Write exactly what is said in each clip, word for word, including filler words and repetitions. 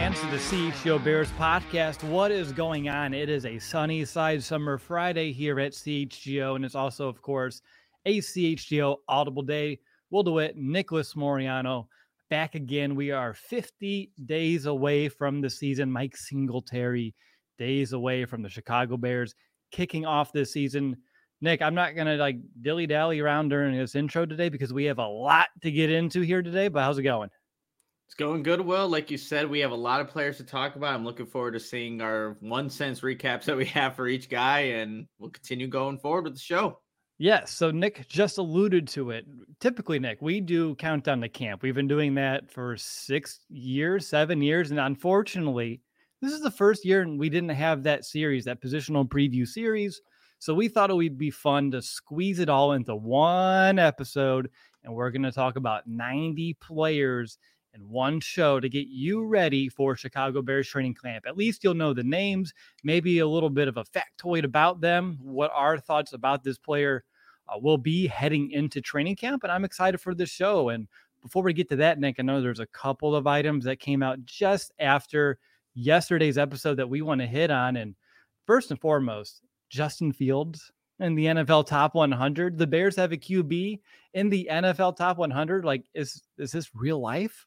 fans, to the C H G O Bears podcast. What is going on? It is a sunny side summer Friday here at C H G O, and it's also, of course, a C H G O Audible Day. Will DeWitt, Nicholas Moriano, back again. We are fifty days away from the season. Mike Singletary, days away from the Chicago Bears kicking off this season. Nick, I'm not going to like dilly-dally around during this intro today because we have a lot to get into here today, but how's it going? It's going good, Will. Like you said, we have a lot of players to talk about. I'm looking forward to seeing our one cents recaps that we have for each guy, and we'll continue going forward with the show. Yes, so Nick just alluded to it. Typically, Nick, we do Countdown to Camp. We've been doing that for six years, seven years, and unfortunately, this is the first year we didn't have that series, that positional preview series. So we thought it would be fun to squeeze it all into one episode, and we're going to talk about ninety players in one show to get you ready for Chicago Bears training camp. At least you'll know the names, maybe a little bit of a factoid about them, what our thoughts about this player uh, will be heading into training camp, and I'm excited for this show. And before we get to that, Nick, I know there's a couple of items that came out just after yesterday's episode that we want to hit on, and first and foremost, Justin Fields in the N F L Top one hundred. The Bears have a Q B in the N F L Top one hundred. Like, is is this real life?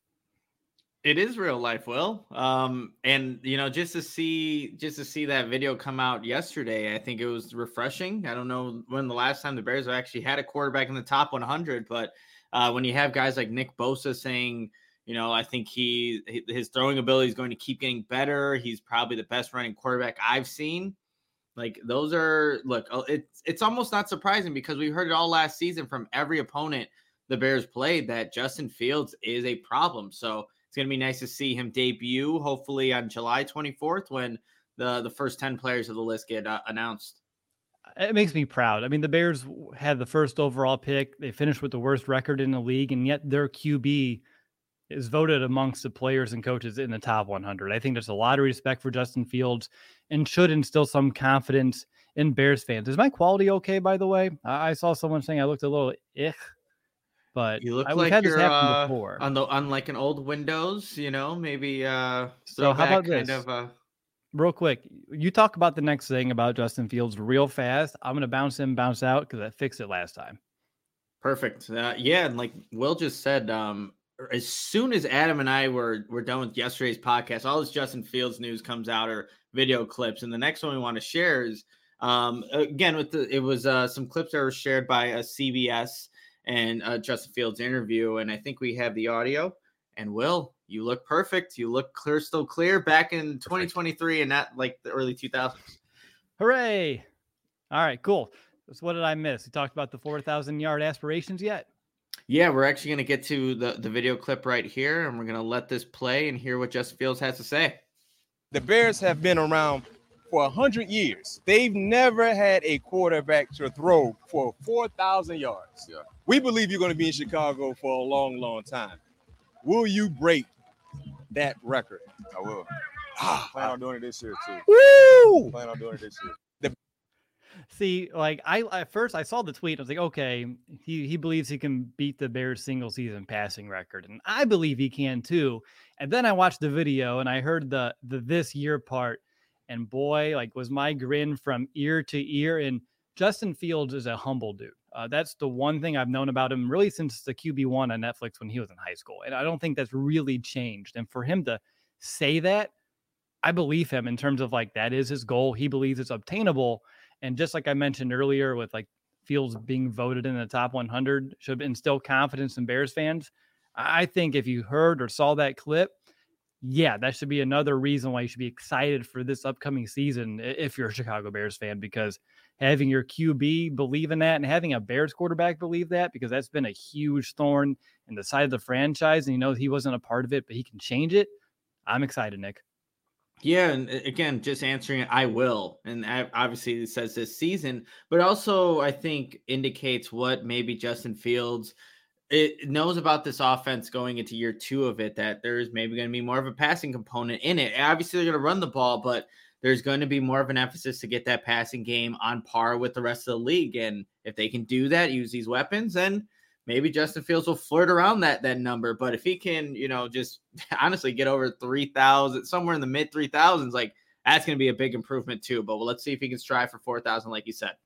It is real life, Will. Um, and you know, just to see just to see that video come out yesterday, I think it was refreshing. I don't know when the last time the Bears have actually had a quarterback in the top one hundred, but uh, when you have guys like Nick Bosa saying, you know, I think he his throwing ability is going to keep getting better. He's probably the best running quarterback I've seen. Like, those are, look, it's it's almost not surprising because we heard it all last season from every opponent the Bears played that Justin Fields is a problem. So it's going to be nice to see him debut, hopefully on July twenty-fourth when the, the first ten players of the list get uh, announced. It makes me proud. I mean, the Bears had the first overall pick. They finished with the worst record in the league, and yet their Q B is voted amongst the players and coaches in the top one hundred. I think there's a lot of respect for Justin Fields and should instill some confidence in Bears fans. Is my quality okay, by the way? I saw someone saying I looked a little ich, but you look I, like we've had you're this happen uh, before. on the on like an old Windows, you know, maybe. Uh, so how about kind this? Of, uh... Real quick, you talk about the next thing about Justin Fields real fast. I'm going to bounce in, bounce out because I fixed it last time. Perfect. Uh, yeah, and like Will just said, um, as soon as Adam and I were were done with yesterday's podcast, all this Justin Fields news comes out or video clips, and the next one we want to share is um, again with the it was uh, some clips that were shared by a C B S and uh, Justin Fields interview, and I think we have the audio. And Will, you look perfect. You look clear, still clear, back in twenty twenty-three and not like the early two thousands. Hooray! All right, cool. So what did I miss? You talked about the four thousand yard aspirations yet? Yeah, we're actually going to get to the, the video clip right here, and we're going to let this play and hear what Justin Fields has to say. The Bears have been around for one hundred years. They've never had a quarterback to throw for four thousand yards. Yeah. We believe you're going to be in Chicago for a long, long time. Will you break that record? I will. Ah, plan on doing it this year, too. Woo! Plan on doing it this year. See, like I at first I saw the tweet. I was like, okay, he he believes he can beat the Bears single season passing record, and I believe he can too. And then I watched the video and I heard the the this year part, and boy, like was my grin from ear to ear. And Justin Fields is a humble dude. Uh, that's the one thing I've known about him really since the Q B one on Netflix when he was in high school, and I don't think that's really changed. And for him to say that, I believe him in terms of like that is his goal. He believes it's obtainable. And just like I mentioned earlier with like Fields being voted in the top one hundred should instill confidence in Bears fans. I think if you heard or saw that clip, yeah, that should be another reason why you should be excited for this upcoming season if you're a Chicago Bears fan, because having your Q B believe in that and having a Bears quarterback believe that, because that's been a huge thorn in the side of the franchise. And you know, he wasn't a part of it, but he can change it. I'm excited, Nick. Yeah, and again, just answering it, I will. And obviously it says this season, but also I think indicates what maybe Justin Fields it knows about this offense going into year two of it, that there's maybe going to be more of a passing component in it. Obviously they're going to run the ball, but there's going to be more of an emphasis to get that passing game on par with the rest of the league. And if they can do that, use these weapons, then maybe Justin Fields will flirt around that that number. But if he can, you know, just honestly get over three thousand, somewhere in the mid three thousands, like that's going to be a big improvement too. But well, let's see if he can strive for four thousand, like you said.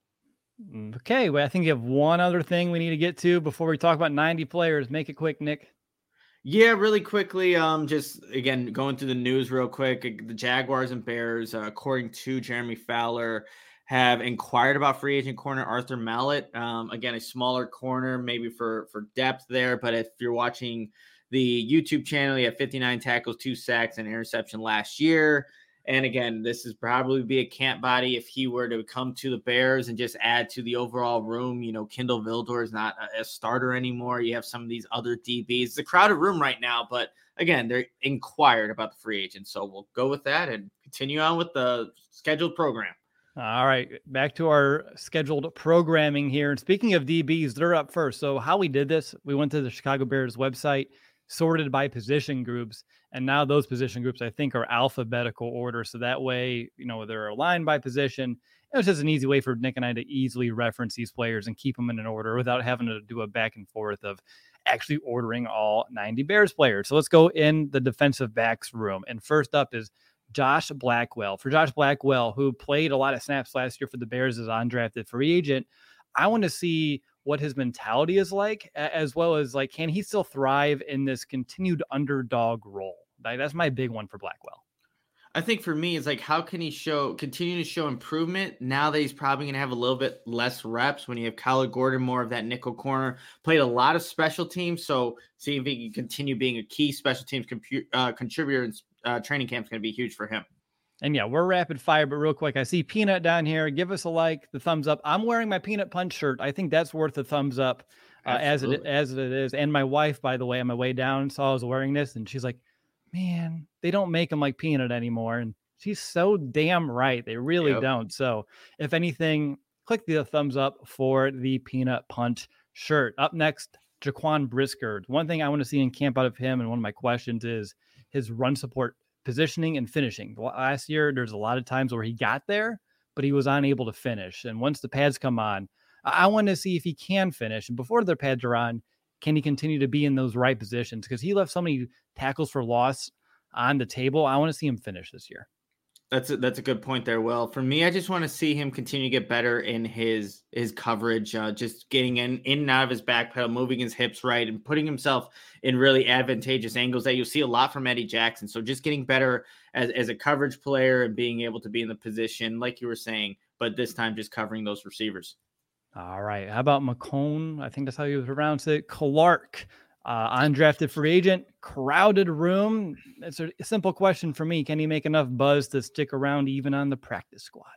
Okay, well, I think you have one other thing we need to get to before we talk about ninety players. Make it quick, Nick. Yeah, really quickly. Um, just again going through the news real quick. The Jaguars and Bears, uh, according to Jeremy Fowler, have inquired about free agent corner Arthur Mallett. Um, again, a smaller corner, maybe for for depth there. But if you're watching the YouTube channel, he had fifty-nine tackles, two sacks, and interception last year. And again, this is probably be a camp body if he were to come to the Bears and just add to the overall room. You know, Kindle Vildor is not a, a starter anymore. You have some of these other D Bs. It's a crowded room right now, but again, they're inquired about the free agent. So we'll go with that and continue on with the scheduled program. All right, back to our scheduled programming here. And speaking of D Bs, they're up first. So how we did this, we went to the Chicago Bears website, sorted by position groups. And now those position groups, I think, are alphabetical order. So that way, you know, they're aligned by position. It was just an easy way for Nick and I to easily reference these players and keep them in an order without having to do a back and forth of actually ordering all ninety Bears players. So let's go in the defensive backs room. And first up is Josh Blackwell. For Josh Blackwell, who played a lot of snaps last year for the Bears as an undrafted free agent, I want to see what his mentality is like, as well as like, can he still thrive in this continued underdog role? That's my big one for Blackwell. I think for me, it's like, how can he show, continue to show improvement now that he's probably going to have a little bit less reps when you have Kyler Gordon, more of that nickel corner, played a lot of special teams. So see if he can continue being a key special teams compu- uh, contributor in uh, training camp is going to be huge for him. And yeah, we're rapid fire, but real quick, I see Peanut down here. Give us a like, the thumbs up. I'm wearing my Peanut Punch shirt. I think that's worth a thumbs up uh, as it as it is. And my wife, by the way, on my way down, saw I was wearing this, and she's like, man, they don't make them like Peanut anymore. And she's so damn right. They really yep. don't. So if anything, click the thumbs up for the Peanut Punch shirt. Up next, Jaquan Brisker. One thing I want to see in camp out of him, and one of my questions is his run support positioning and finishing. Last year, there's a lot of times where he got there, but he was unable to finish. And once the pads come on, I want to see if he can finish. And before the pads are on, can he continue to be in those right positions? Because he left so many tackles for loss on the table. I want to see him finish this year. That's a, that's a good point there, Will. For me, I just want to see him continue to get better in his his coverage, uh, just getting in, in and out of his back pedal, moving his hips right, and putting himself in really advantageous angles that you'll see a lot from Eddie Jackson. So just getting better as, as a coverage player and being able to be in the position, like you were saying, but this time just covering those receivers. All right. How about McCone? I think that's how you pronounce it. Clark. Uh, undrafted free agent, crowded room. It's a simple question for me. Can he make enough buzz to stick around even on the practice squad?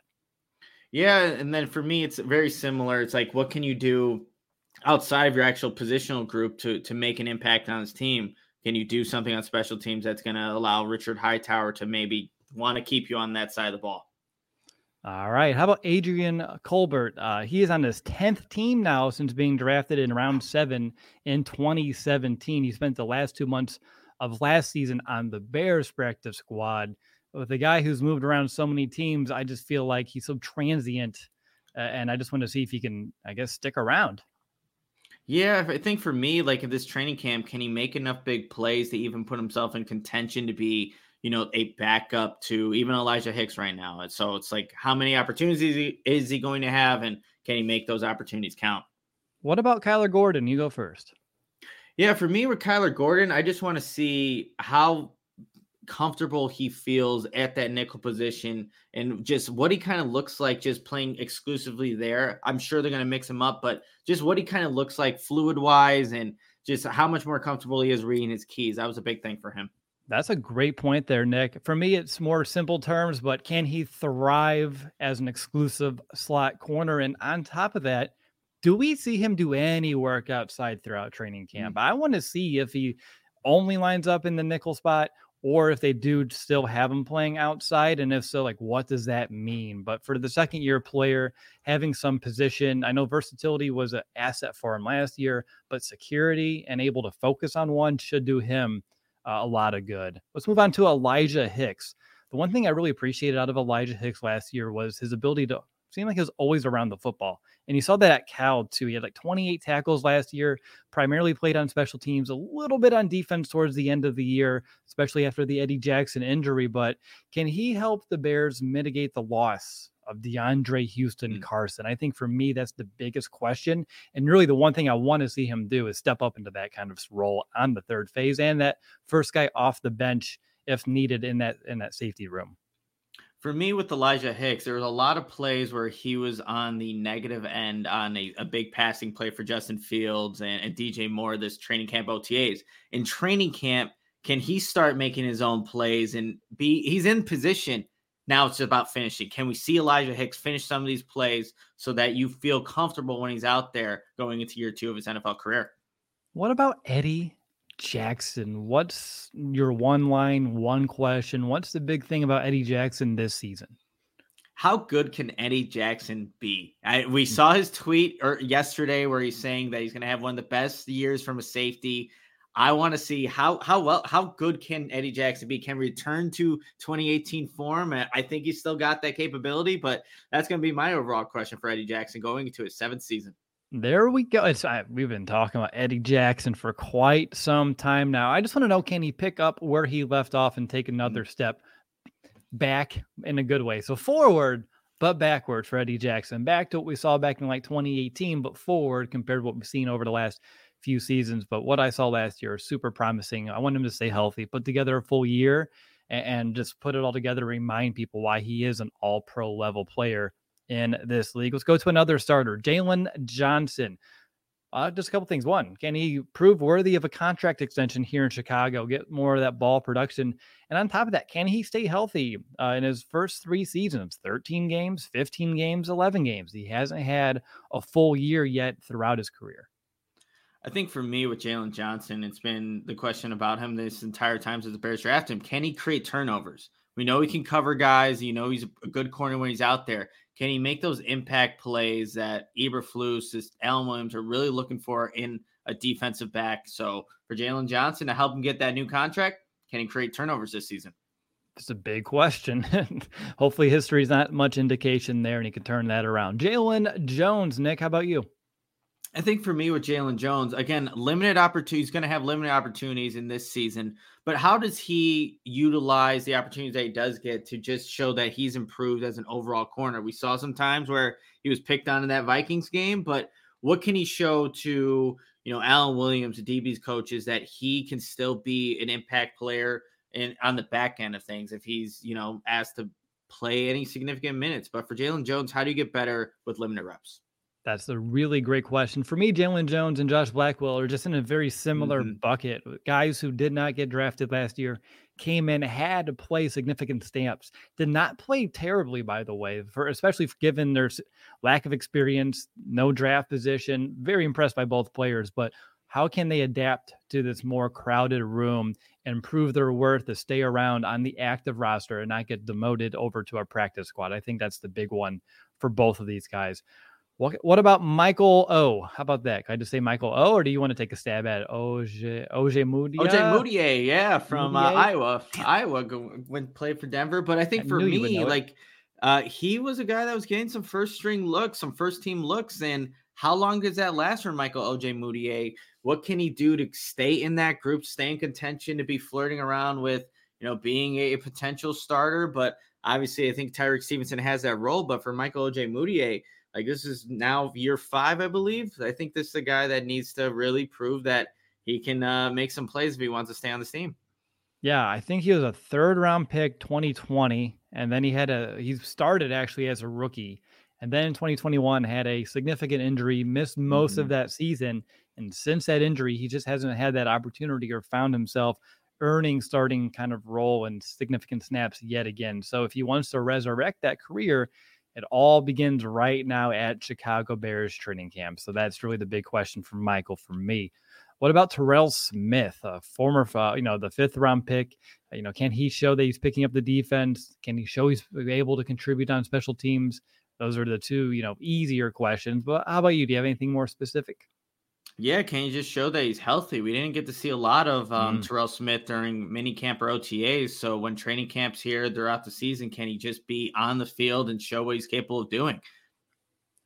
Yeah, and then for me, it's very similar. It's like, what can you do outside of your actual positional group to, to make an impact on his team? Can you do something on special teams that's going to allow Richard Hightower to maybe want to keep you on that side of the ball? All right. How about Adrian Colbert? Uh, he is on his tenth team now since being drafted in round seven in twenty seventeen. He spent the last two months of last season on the Bears practice squad. With a guy who's moved around so many teams, I just feel like he's so transient, uh, and I just want to see if he can, I guess, stick around. Yeah, I think for me, like in this training camp, can he make enough big plays to even put himself in contention to be, you know, a backup to even Elijah Hicks right now? And so it's like, how many opportunities is he, is he going to have, and can he make those opportunities count? What about Kyler Gordon? You go first. Yeah, for me with Kyler Gordon, I just want to see how comfortable he feels at that nickel position and just what he kind of looks like just playing exclusively there. I'm sure they're going to mix him up, but just what he kind of looks like fluid wise and just how much more comfortable he is reading his keys. That was a big thing for him. That's a great point there, Nick. For me, it's more simple terms, but can he thrive as an exclusive slot corner? And on top of that, do we see him do any work outside throughout training camp? Mm-hmm. I want to see if he only lines up in the nickel spot or if they do still have him playing outside. And if so, like, what does that mean? But for the second year player, having some position, I know versatility was an asset for him last year, but security and able to focus on one should do him Uh, a lot of good. Let's move on to Elijah Hicks. The one thing I really appreciated out of Elijah Hicks last year was his ability to seemed like he was always around the football. And you saw that at Cal too. He had like twenty-eight tackles last year, primarily played on special teams, a little bit on defense towards the end of the year, especially after the Eddie Jackson injury. But can he help the Bears mitigate the loss of DeAndre Houston mm. Carson? I think for me, that's the biggest question. And really the one thing I want to see him do is step up into that kind of role on the third phase and that first guy off the bench if needed in that, in that safety room. For me, with Elijah Hicks, there was a lot of plays where he was on the negative end on a, a big passing play for Justin Fields and, and D J Moore, this training camp O T As. In training camp, can he start making his own plays and be, he's in position. Now it's about finishing. Can we see Elijah Hicks finish some of these plays so that you feel comfortable when he's out there going into year two of his N F L career? What about Eddie Jackson? What's your one line, one question? What's the big thing about Eddie Jackson this season? How good can Eddie Jackson be? I, we saw his tweet or yesterday where he's saying that he's going to have one of the best years from a safety. I want to see how how well how good can Eddie Jackson be? Can return to twenty eighteen form? I think he's still got that capability, but that's going to be my overall question for Eddie Jackson going into his seventh season. There we go. It's, I, we've been talking about Eddie Jackson for quite some time now. I just want to know, can he pick up where he left off and take another step back in a good way? So forward, but backward for Eddie Jackson. Back to what we saw back in like twenty eighteen, but forward compared to what we've seen over the last few seasons. But what I saw last year is super promising. I want him to stay healthy, put together a full year, and, and just put it all together, remind people why he is an all-pro level player in this league. Let's go to another starter, Jaylon Johnson. Uh, just a couple things. One, can he prove worthy of a contract extension here in Chicago, get more of that ball production? And on top of that, can he stay healthy uh, in his first three seasons, thirteen games, fifteen games, eleven games? He hasn't had a full year yet throughout his career. I think for me with Jaylon Johnson, it's been the question about him this entire time since the Bears drafted him. Can he create turnovers? We know he can cover guys. You know, he's a good corner when he's out there. Can he make those impact plays that Eberflus, Allen Williams are really looking for in a defensive back? So for Jaylon Johnson to help him get that new contract, can he create turnovers this season? It's a big question. Hopefully history is not much indication there and he can turn that around. Jalen Jones, Nick, how about you? I think for me with Jalen Jones, again, limited opportunities, he's going to have limited opportunities in this season, but how does he utilize the opportunities that he does get to just show that he's improved as an overall corner? We saw some times where he was picked on in that Vikings game, but what can he show to, you know, Allen Williams, the D B's coaches, that he can still be an impact player in on the back end of things if he's, you know, asked to play any significant minutes? But for Jalen Jones, how do you get better with limited reps? That's a really great question. For me, Jalen Jones and Josh Blackwell are just in a very similar mm-hmm. bucket. Guys who did not get drafted last year came in, had to play significant stamps, did not play terribly, by the way, for especially given their lack of experience, no draft position. Very impressed by both players, but how can they adapt to this more crowded room and prove their worth to stay around on the active roster and not get demoted over to our practice squad? I think that's the big one for both of these guys. What, what about Michael O? How about that? Can I just say Michael O, or do you want to take a stab at it? Oje, Oje Mudia? Oje Mudia, yeah, from uh, Iowa. Iowa went played for Denver. But I think I for me, like, uh, he was a guy that was getting some first string looks, some first team looks. And how long does that last for Michael Oje Mudia? What can he do to stay in that group, stay in contention, to be flirting around with, you know, being a, a potential starter? But obviously, I think Tyreek Stevenson has that role. But for Michael Oje Mudia, like, this is now year five, I believe. I think this is a guy that needs to really prove that he can uh, make some plays if he wants to stay on this team. Yeah, I think he was a third round pick twenty twenty, and then he had a he started actually as a rookie, and then in twenty twenty-one had a significant injury, missed most mm-hmm. of that season, and since that injury, he just hasn't had that opportunity or found himself earning starting kind of role and significant snaps yet again. So if he wants to resurrect that career, it all begins right now at Chicago Bears training camp. So that's really the big question for Michael, for me. What about Terrell Smith, a former, you know, the fifth round pick? You know, can he show that he's picking up the defense? Can he show he's able to contribute on special teams? Those are the two, you know, easier questions. But how about you? Do you have anything more specific? Yeah, can you just show that he's healthy? We didn't get to see a lot of um, mm. Terrell Smith during mini camp or O T As. So when training camp's here throughout the season, can he just be on the field and show what he's capable of doing?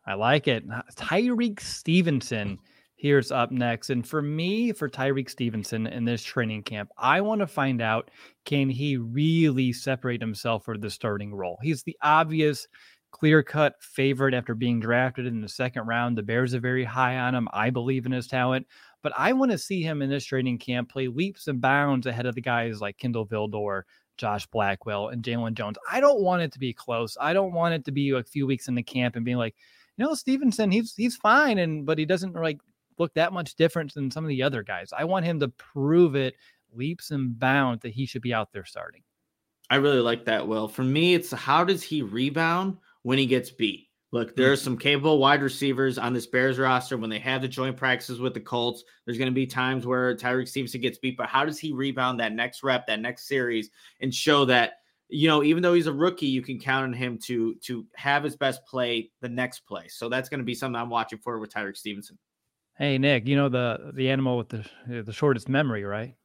I like it. Tyrique Stevenson here's up next. And for me, for Tyrique Stevenson in this training camp, I want to find out, can he really separate himself for the starting role? He's the obvious clear-cut favorite after being drafted in the second round. The Bears are very high on him. I believe in his talent. But I want to see him in this training camp play leaps and bounds ahead of the guys like Kindle Vildor, Josh Blackwell, and Jalen Jones. I don't want it to be close. I don't want it to be a few weeks in the camp and being like, you know, Stevenson, he's he's fine, and but he doesn't like look that much different than some of the other guys. I want him to prove it leaps and bounds that he should be out there starting. I really like that, Will. For me, it's how does he rebound when he gets beat? Look, there are some capable wide receivers on this Bears roster. When they have the joint practices with the Colts, there's going to be times where Tyrique Stevenson gets beat, but how does he rebound that next rep, that next series, and show that, you know, even though he's a rookie, you can count on him to, to have his best play the next play. So that's going to be something I'm watching for with Tyrique Stevenson. Hey, Nick, you know the the animal with the the shortest memory, right?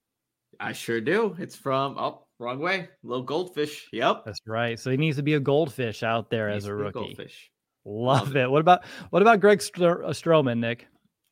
I sure do. It's from, oh, wrong way. Little goldfish. Yep. That's right. So he needs to be a goldfish out there Needs as a to be rookie. Goldfish. Love, Love it. it. What about what about Greg Stro- Stroman, Nick?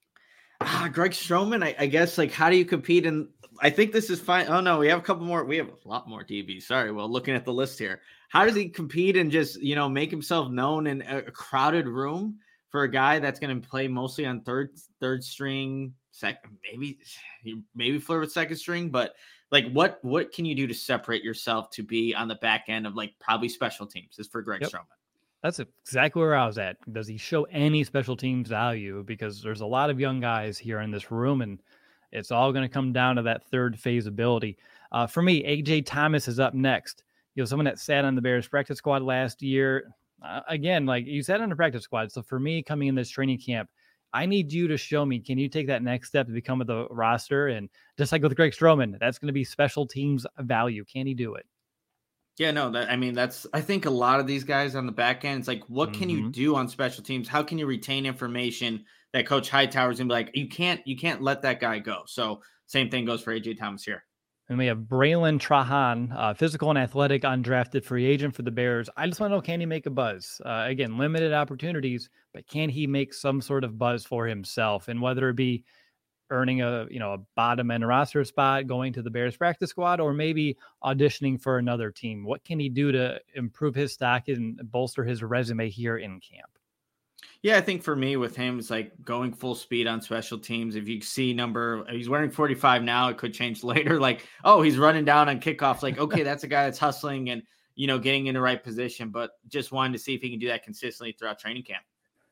Ah, Greg Stroman, I, I guess, like, how do you compete? And I think this is fine. Oh, no, we have a couple more. We have a lot more D Bs. Sorry. Well, looking at the list here, how does he compete and just, you know, make himself known in a crowded room for a guy that's going to play mostly on third, third string, second, maybe, maybe flirt with second string, but like, what, what can you do to separate yourself to be on the back end of like probably special teams is for Greg Yep. Stroman. That's exactly where I was at. Does he show any special teams value? Because there's a lot of young guys here in this room, and it's all going to come down to that third phase ability. Uh, for me, A J Thomas is up next. You know, someone that sat on the Bears practice squad last year. Uh, again, like you sat on the practice squad. So for me, coming in this training camp, I need you to show me, can you take that next step to become with the roster? And just like with Greg Stroman, that's going to be special teams value. Can he do it? Yeah, no, that I mean, that's I think a lot of these guys on the back end, it's like, what can Mhm. you do on special teams? How can you retain information that Coach Hightower's gonna be like, you can't, you can't let that guy go. So same thing goes for A J Thomas here. And we have Braylon Trahan, uh, physical and athletic, undrafted free agent for the Bears. I just want to know, can he make a buzz? Uh, again, limited opportunities, but can he make some sort of buzz for himself? And whether it be earning a, you know, a bottom end roster spot, going to the Bears practice squad, or maybe auditioning for another team, what can he do to improve his stock and bolster his resume here in camp? Yeah, I think for me with him, it's like going full speed on special teams. If you see number, he's wearing forty-five now, it could change later. Like, oh, he's running down on kickoffs. Like, okay, that's a guy that's hustling and, you know, getting in the right position, but just wanted to see if he can do that consistently throughout training camp.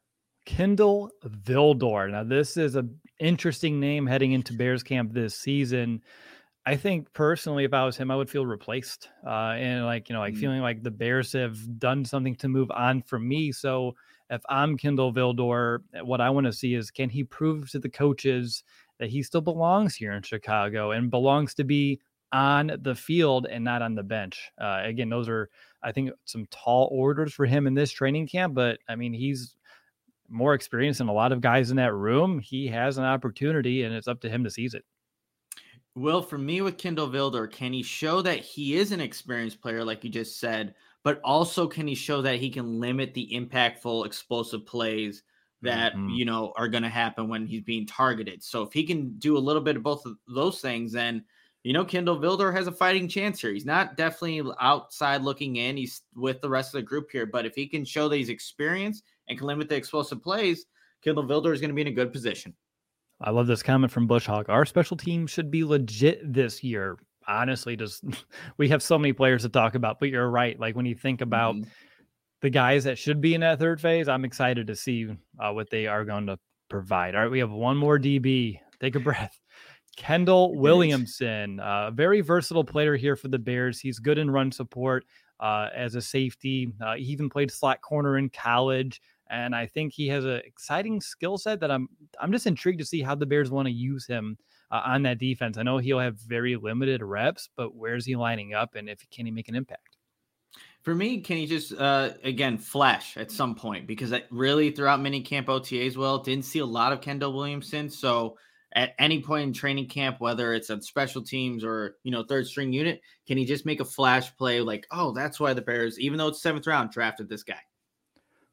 Kindle Vildor. Now, this is an interesting name heading into Bears camp this season. I think personally, if I was him, I would feel replaced. Uh, and like, you know, like mm. feeling like the Bears have done something to move on from me. So if I'm Kindle Vildor, what I want to see is, can he prove to the coaches that he still belongs here in Chicago and belongs to be on the field and not on the bench? Uh, again, those are, I think, some tall orders for him in this training camp. But I mean, he's more experienced than a lot of guys in that room. He has an opportunity, and it's up to him to seize it. Well, for me with Kindle Vildor, can he show that he is an experienced player, like you just said, but also can he show that he can limit the impactful, explosive plays that, mm-hmm. you know, are going to happen when he's being targeted? So if he can do a little bit of both of those things, then, you know, Kindle Vildor has a fighting chance here. He's not definitely outside looking in. He's with the rest of the group here, but if he can show that he's experienced and can limit the explosive plays, Kindle Vildor is going to be in a good position. I love this comment from Bush Hawk. Our special team should be legit this year. Honestly, just we have so many players to talk about, but you're right. Like when you think about mm-hmm. the guys that should be in that third phase, I'm excited to see uh, what they are going to provide. All right, we have one more D B. Take a breath. Kendall Williamson, a uh, very versatile player here for the Bears. He's good in run support uh, as a safety. Uh, he even played slot corner in college. And I think he has an exciting skill set that I'm I'm just intrigued to see how the Bears want to use him uh, on that defense. I know he'll have very limited reps, but where's he lining up, and if can he make an impact? For me, can he just, uh, again, flash at some point? Because I really, throughout mini camp O T As, well, didn't see a lot of Kendall Williamson. So at any point in training camp, whether it's on special teams or, you know, third string unit, can he just make a flash play like, oh, that's why the Bears, even though it's seventh round, drafted this guy?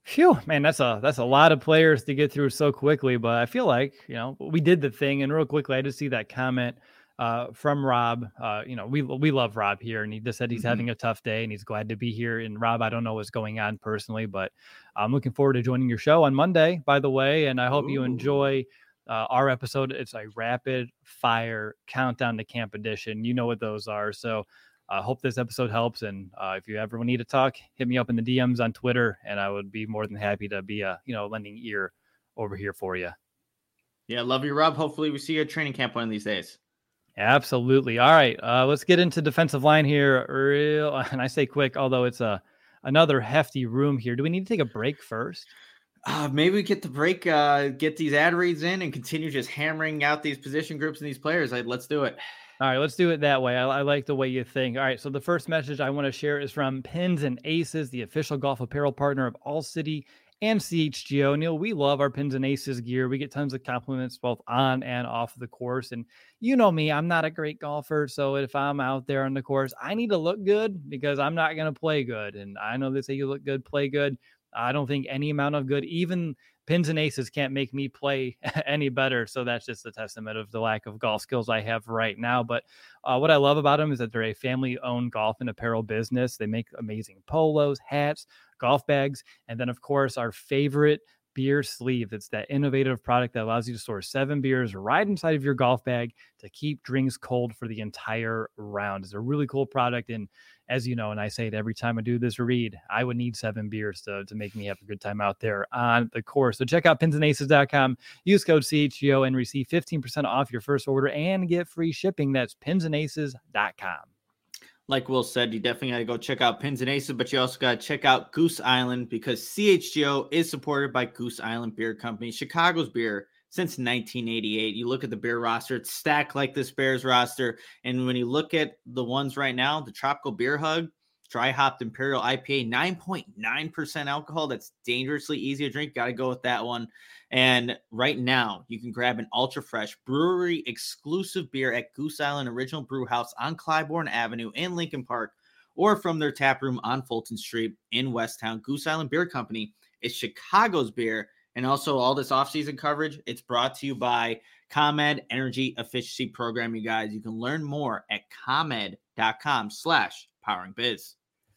Phew, man, that's a that's a lot of players to get through so quickly. But I feel like, you know, we did the thing. And real quickly, I just see that comment uh, from Rob. Uh, you know, we we love Rob here, and he just said he's Mhm. having a tough day and he's glad to be here. And Rob, I don't know what's going on personally, but I'm looking forward to joining your show on Monday, by the way. And I hope you Ooh. enjoy uh, our episode. It's a rapid fire countdown to camp edition. You know what those are. So I uh, hope this episode helps. And uh, if you ever need to talk, hit me up in the D Ms on Twitter, and I would be more than happy to be a, you know, lending ear over here for you. Yeah, love you, Rob. Hopefully we see you at training camp one of these days. Absolutely. All right, uh, let's get into defensive line here. Real, and I say quick, although it's a another hefty room here. Do we need to take a break first? Uh, maybe we get the break, uh, get these ad reads in, and continue just hammering out these position groups and these players. Like, let's do it. All right, let's do it that way. I, I like the way you think. All right, so the first message I want to share is from Pins and Aces, the official golf apparel partner of All City and C H G O. Neil, we love our Pins and Aces gear. We get tons of compliments both on and off the course. And you know me, I'm not a great golfer. So if I'm out there on the course, I need to look good because I'm not going to play good. And I know they say you look good, play good. I don't think any amount of good, even Pins and Aces, can't make me play any better. So that's just a testament of the lack of golf skills I have right now. But uh, what I love about them is that they're a family-owned golf and apparel business. They make amazing polos, hats, golf bags, and then, of course, our favorite beer sleeve. It's that innovative product that allows you to store seven beers right inside of your golf bag to keep drinks cold for the entire round. It's a really cool product. And as you know, and I say it every time I do this read, I would need seven beers to, to make me have a good time out there on the course. So check out pins and aces dot com, use code C H G O, and receive fifteen percent off your first order and get free shipping. That's pins and aces dot com. Like Will said, you definitely got to go check out Pins and Aces, but you also got to check out Goose Island because C H G O is supported by Goose Island Beer Company, Chicago's beer since nineteen eighty-eight. You look at the beer roster, it's stacked like this Bears roster. And when you look at the ones right now, the Tropical Beer Hug, Dry Hopped Imperial I P A, nine point nine percent alcohol. That's dangerously easy to drink. Got to go with that one. And right now, you can grab an ultra fresh brewery exclusive beer at Goose Island Original Brew House on Clybourne Avenue in Lincoln Park, or from their tap room on Fulton Street in Westtown. Goose Island Beer Company is Chicago's beer. And also all this off-season coverage, it's brought to you by ComEd Energy Efficiency Program, you guys. You can learn more at ComEd.com slash powering biz.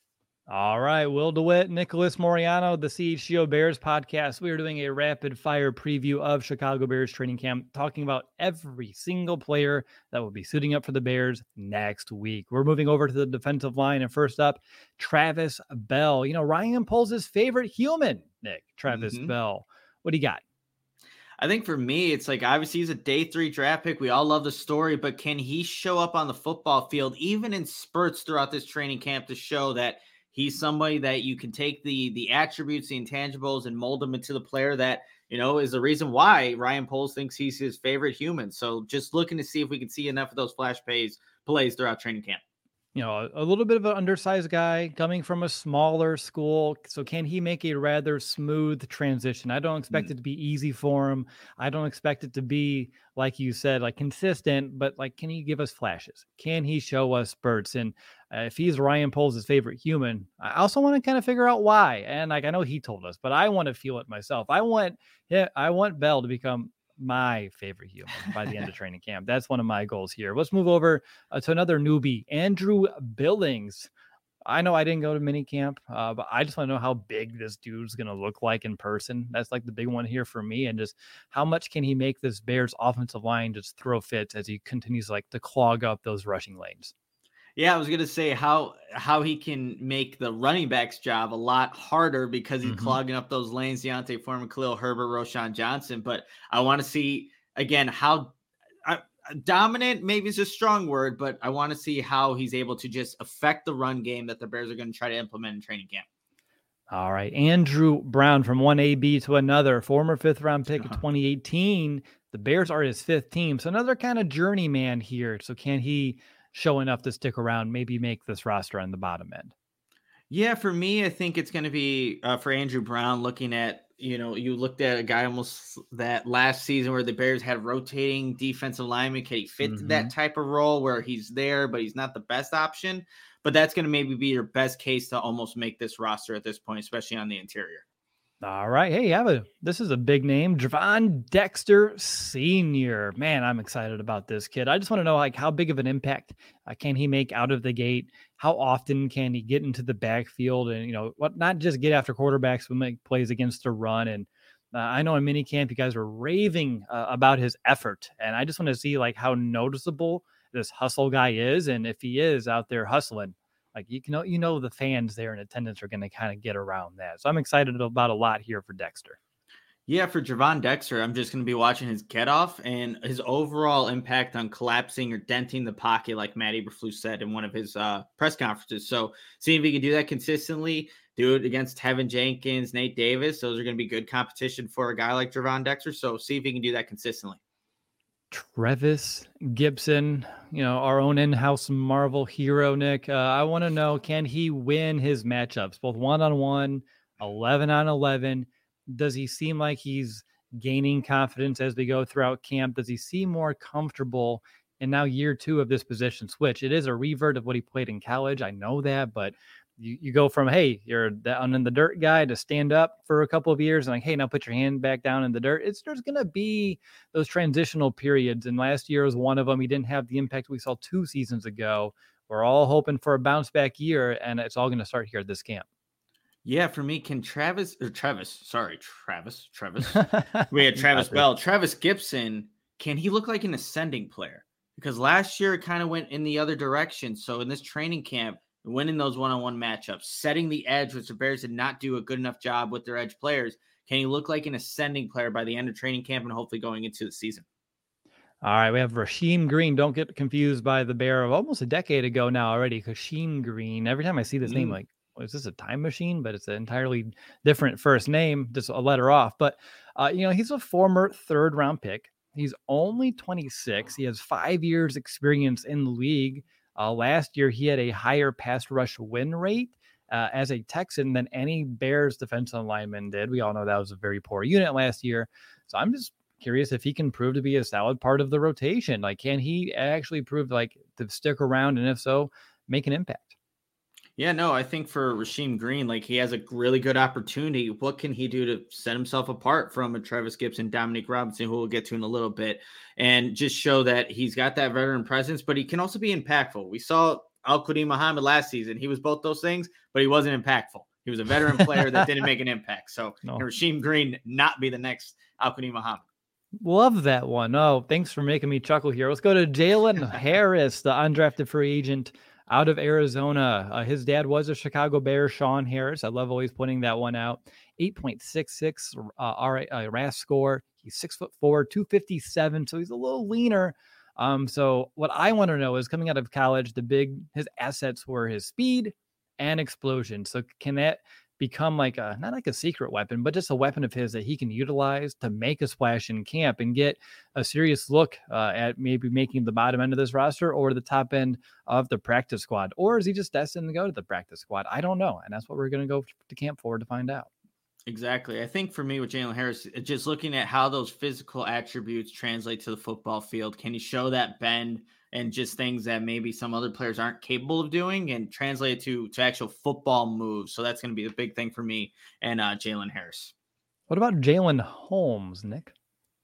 All right, Will DeWitt, Nicholas Moriano, the C H G O Bears podcast. We are doing a rapid fire preview of Chicago Bears training camp, talking about every single player that will be suiting up for the Bears next week. We're moving over to the defensive line, and first up, Travis Bell. You know, Ryan Poles' favorite human, Nick, Travis Mm-hmm. Bell. What do you got? I think for me, it's like, obviously he's a day three draft pick. We all love the story, but can he show up on the football field, even in spurts throughout this training camp, to show that he's somebody that you can take the the attributes, the intangibles, and mold them into the player that, you know, is the reason why Ryan Poles thinks he's his favorite human. So just looking to see if we can see enough of those flash plays, plays throughout training camp. You know, a, a little bit of an undersized guy coming from a smaller school. So can he make a rather smooth transition? I don't expect mm. it to be easy for him. I don't expect it to be, like you said, like consistent, but like, can he give us flashes? Can he show us spurts? And uh, if he's Ryan Poles' favorite human, I also want to kind of figure out why. And like, I know he told us, but I want to feel it myself. I want, yeah, I want Bell to become my favorite human by the end of training camp. That's one of my goals here. Let's move over uh, to another newbie, Andrew Billings. I know I didn't go to mini camp, uh, but I just want to know how big this dude's going to look like in person. That's like the big one here for me. And just how much can he make this Bears offensive line just throw fits as he continues like to clog up those rushing lanes? Yeah, I was going to say how how he can make the running back's job a lot harder because he's mm-hmm. clogging up those lanes, Deontay Foreman, Khalil Herbert, Roschon Johnson. But I want to see, again, how uh, dominant, maybe is a strong word, but I want to see how he's able to just affect the run game that the Bears are going to try to implement in training camp. All right, Andrew Brown from one A B to another, former fifth-round pick uh-huh. of twenty eighteen. The Bears are his fifth team, so another kind of journeyman here. So can he show enough to stick around, maybe make this roster on the bottom end? Yeah, for me, I think it's going to be uh, for Andrew Brown, looking at, you know, you looked at a guy almost that last season where the Bears had rotating defensive linemen. Can he fit mm-hmm. that type of role where he's there, but he's not the best option? But that's going to maybe be your best case to almost make this roster at this point, especially on the interior. All right. Hey, have a this is a big name, Javon Dexter Senior Man, I'm excited about this kid. I just want to know, like, how big of an impact uh, can he make out of the gate? How often can he get into the backfield and, you know, what, not just get after quarterbacks, but make plays against the run? And uh, I know in minicamp, you guys were raving uh, about his effort, and I just want to see like how noticeable this hustle guy is, and if he is out there hustling. Like you know, you know, the fans there in attendance are going to kind of get around that. So I'm excited about a lot here for Dexter. Yeah, for Javon Dexter, I'm just going to be watching his get off and his overall impact on collapsing or denting the pocket, like Matt Eberflus said in one of his uh, press conferences. So seeing if he can do that consistently, do it against Tevin Jenkins, Nate Davis. Those are going to be good competition for a guy like Javon Dexter. So see if he can do that consistently. Trevis Gibson, you know, our own in-house Marvel hero, Nick. Uh, I want to know, can he win his matchups, both one-on-one, eleven on eleven? Does he seem like he's gaining confidence as we go throughout camp? Does he seem more comfortable in now year two of this position switch? It is a revert of what he played in college. I know that, but you, you go from, hey, you're down in the dirt guy to stand up for a couple of years and like, hey, now put your hand back down in the dirt. It's there's going to be those transitional periods. And last year was one of them. He didn't have the impact we saw two seasons ago. We're all hoping for a bounce back year, and it's all going to start here at this camp. Yeah, for me, can Travis or Travis, sorry, Travis, Travis, we had Travis Bell, Travis Gibson, can he look like an ascending player? Because last year it kind of went in the other direction. So in this training camp, winning those one-on-one matchups, setting the edge, which the Bears did not do a good enough job with their edge players. Can he look like an ascending player by the end of training camp and hopefully going into the season? All right, we have Rasheem Green. Don't get confused by the Bear of almost a decade ago now already. Rasheem Green. Every time I see this mm. name, like, well, is this a time machine? But it's an entirely different first name, just a letter off. But, uh, you know, he's a former third-round pick. He's only twenty-six. He has five years experience in the league. Uh, last year, he had a higher pass rush win rate uh, as a Texan than any Bears defensive lineman did. We all know that was a very poor unit last year. So I'm just curious if he can prove to be a solid part of the rotation. Like, can he actually prove like to stick around? And if so, make an impact? Yeah, no, I think for Rasheem Green, like he has a really good opportunity. What can he do to set himself apart from a Travis Gibson, Dominique Robinson, who we'll get to in a little bit, and just show that he's got that veteran presence, but he can also be impactful. We saw Al-Quadin Muhammad last season. He was both those things, but he wasn't impactful. He was a veteran player that didn't make an impact. So no. Can Rasheem Green not be the next Al-Quadin Muhammad? Love that one. Oh, thanks for making me chuckle here. Let's go to Jalen Harris, the undrafted free agent out of Arizona. Uh, his dad was a Chicago Bear, Sean Harris. I love always pointing that one out. eight point six six uh, R A, uh, R A S score. He's six foot four, two fifty-seven. So he's a little leaner. Um, so what I want to know is coming out of college, the big, his assets were his speed and explosion. So can that become like a, not like a secret weapon, but just a weapon of his that he can utilize to make a splash in camp and get a serious look uh, at maybe making the bottom end of this roster or the top end of the practice squad? Or is he just destined to go to the practice squad? I don't know. And that's what we're going to go to camp for to find out. Exactly. I think for me with Jalen Harris, just looking at how those physical attributes translate to the football field, can you show that bend and just things that maybe some other players aren't capable of doing and translate to, to actual football moves? So that's going to be the big thing for me and uh, Jalen Harris. What about Jalen Holmes, Nick?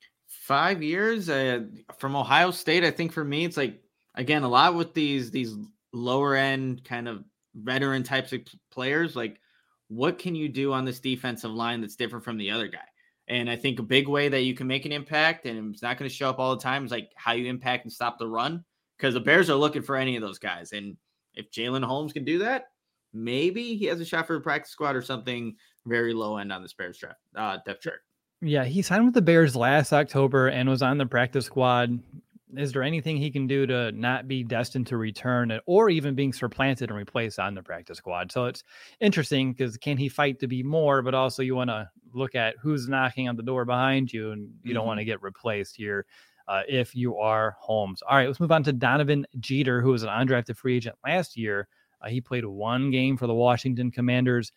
Five years uh, from Ohio State. I think for me, it's like, again, a lot with these, these lower end kind of veteran types of players, like, what can you do on this defensive line that's different from the other guy? And I think a big way that you can make an impact, and it's not going to show up all the time, is like how you impact and stop the run, because the Bears are looking for any of those guys. And if Jalen Holmes can do that, maybe he has a shot for a practice squad or something very low end on this Bears draft uh, depth chart. Yeah, he signed with the Bears last October and was on the practice squad. Is there anything he can do to not be destined to return or even being supplanted and replaced on the practice squad? So it's interesting because can he fight to be more, but also you want to look at who's knocking on the door behind you and you mm-hmm. don't want to get replaced here uh, if you are Holmes. All right, let's move on to Donovan Jeter, who was an undrafted free agent last year. Uh, he played one game for the Washington Commanders.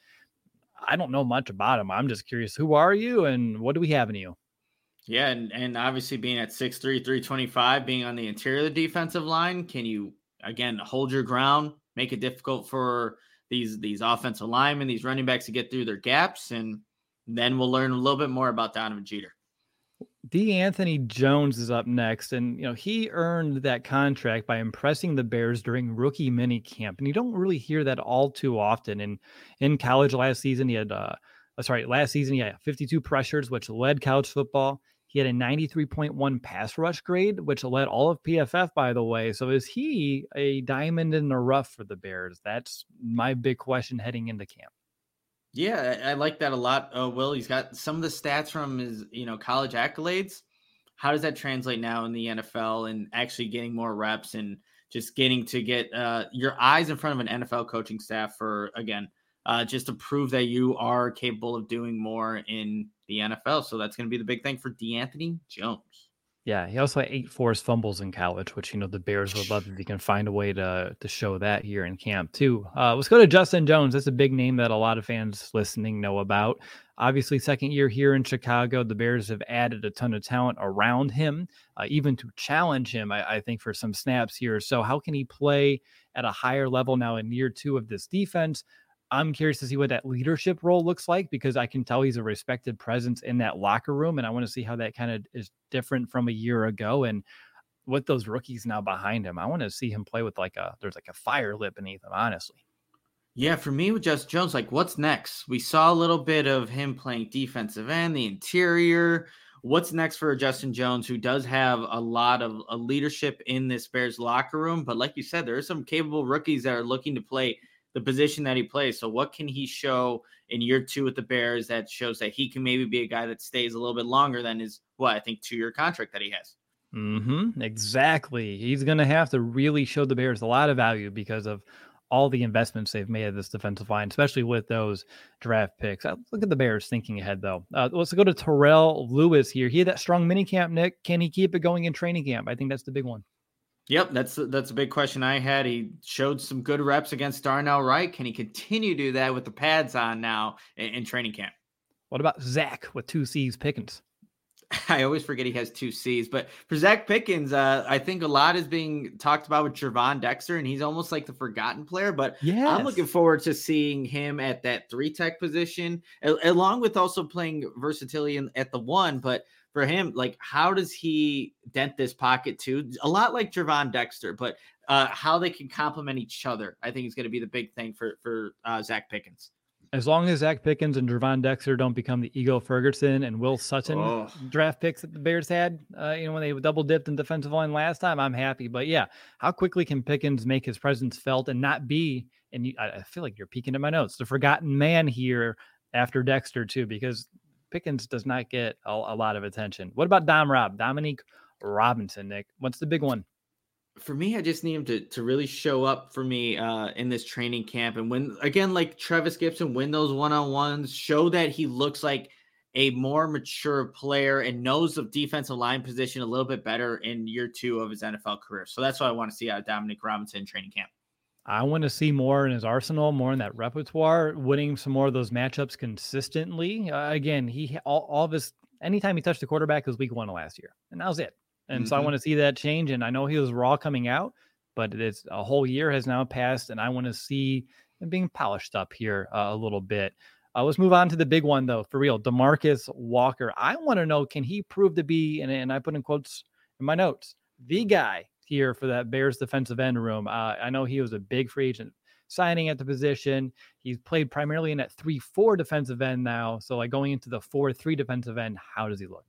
I don't know much about him. I'm just curious, who are you and what do we have in you? Yeah, and, and obviously being at six three, three twenty-five, being on the interior of the defensive line, can you, again, hold your ground, make it difficult for these these offensive linemen, these running backs to get through their gaps? And Then we'll learn a little bit more about Donovan Jeter. DeAnthony Jones is up next, and you know he earned that contract by impressing the Bears during rookie mini camp, and you don't really hear that all too often. And in college last season, he had, uh, sorry, last season he had fifty-two pressures, which led college football. He had a ninety-three point one pass rush grade, which led all of P F F, by the way. So is he a diamond in the rough for the Bears? That's my big question heading into camp. Yeah, I like that a lot. Uh, Will, he's got some of the stats from his, you know, college accolades. How does that translate now in the N F L and actually getting more reps and just getting to get uh, your eyes in front of an N F L coaching staff for, again, uh, just to prove that you are capable of doing more in the N F L. So that's going to be the big thing for DeAnthony Jones. Yeah, he also had eight forced fumbles in college, which, you know, the Bears would love if he can find a way to to show that here in camp, too. Uh, let's go to Justin Jones. That's a big name that a lot of fans listening know about. Obviously, second year here in Chicago, the Bears have added a ton of talent around him, uh, even to challenge him, I, I think, for some snaps here. So how can he play at a higher level now in year two of this defense? I'm curious to see what that leadership role looks like, because I can tell he's a respected presence in that locker room. And I want to see how that kind of is different from a year ago. And with those rookies now behind him, I want to see him play with like a, there's like a fire lit beneath him, honestly. Yeah, for me with Justin Jones, like what's next? We saw a little bit of him playing defensive end, the interior. What's next for Justin Jones, who does have a lot of a leadership in this Bears locker room? But like you said, there are some capable rookies that are looking to play the position that he plays. So what can he show in year two with the Bears that shows that he can maybe be a guy that stays a little bit longer than his, what, I think two-year contract that he has? Mm-hmm, exactly. He's going to have to really show the Bears a lot of value because of all the investments they've made at this defensive line, especially with those draft picks. Look at the Bears thinking ahead, though. Uh, let's go to Terrell Lewis here. He had that strong minicamp, Nick. Can he keep it going in training camp? I think that's the big one. Yep, that's that's a big question I had. He showed some good reps against Darnell Wright. Can he continue to do that with the pads on now in, in training camp? What about Zach with two C's, Pickens? I always forget he has two C's, but for Zach Pickens, uh, I think a lot is being talked about with Gervon Dexter, and he's almost like the forgotten player, but yes. I'm looking forward to seeing him at that three tech position, along with also playing versatility in, at the one, but for him, like, how does he dent this pocket too? A lot like Gervon Dexter, but uh, how they can complement each other, I think is going to be the big thing for, for uh, Zach Pickens. As long as Zach Pickens and Gervon Dexter don't become the Ego Ferguson and Will Sutton oh. draft picks that the Bears had, uh, you know, when they double dipped in defensive line last time, I'm happy. But yeah, how quickly can Pickens make his presence felt and not be, and you, I feel like you're peeking at my notes, the forgotten man here after Dexter too, because Pickens does not get a, a lot of attention. What about Dom Rob, Dominique Robinson, Nick? What's the big one? For me, I just need him to, to really show up for me uh, in this training camp. And when, again, like Travis Gibson, win those one-on-ones, show that he looks like a more mature player and knows the defensive line position a little bit better in year two of his N F L career. So that's what I want to see out of Dominique Robinson in training camp. I want to see more in his arsenal, more in that repertoire, winning some more of those matchups consistently. Uh, again, he all, all of his, anytime he touched the quarterback was week one of last year, and that was it. And mm-hmm. so I want to see that change. And I know he was raw coming out, but it's a whole year has now passed, and I want to see him being polished up here uh, a little bit. Uh, let's move on to the big one, though, for real. DeMarcus Walker. I want to know, can he prove to be, and, and I put in quotes in my notes, the guy here for that Bears defensive end room? Uh, I know he was a big free agent signing at the position. He's played primarily in that three four defensive end now. So like going into the four three defensive end, how does he look?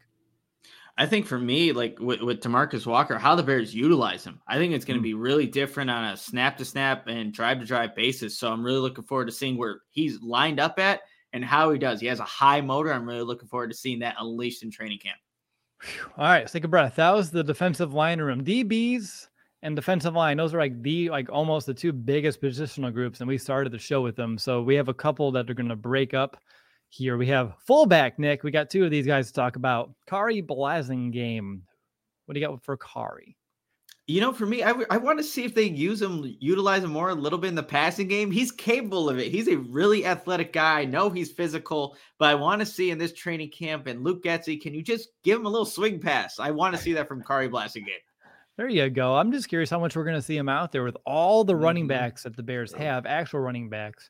I think for me, like with, with DeMarcus Walker, how the Bears utilize him, I think it's going to be really different on a snap to snap and drive to drive basis. So I'm really looking forward to seeing where he's lined up at and how he does. He has a high motor. I'm really looking forward to seeing that unleashed in training camp. All right, let's take a breath. That was the defensive line room. D Bs and defensive line, those are like the like almost the two biggest positional groups, and we started the show with them. So we have a couple that are going to break up here. We have fullback, Nick. We got two of these guys to talk about. Khari Blasingame. What do you got for Khari? You know, for me, I, w- I want to see if they use him, utilize him more a little bit in the passing game. He's capable of it. He's a really athletic guy. I know he's physical, but I want to see in this training camp, and Luke Getsy, can you just give him a little swing pass? I want to see that from Khari Blasingame. There you go. I'm just curious how much we're going to see him out there with all the running backs that the Bears have, actual running backs.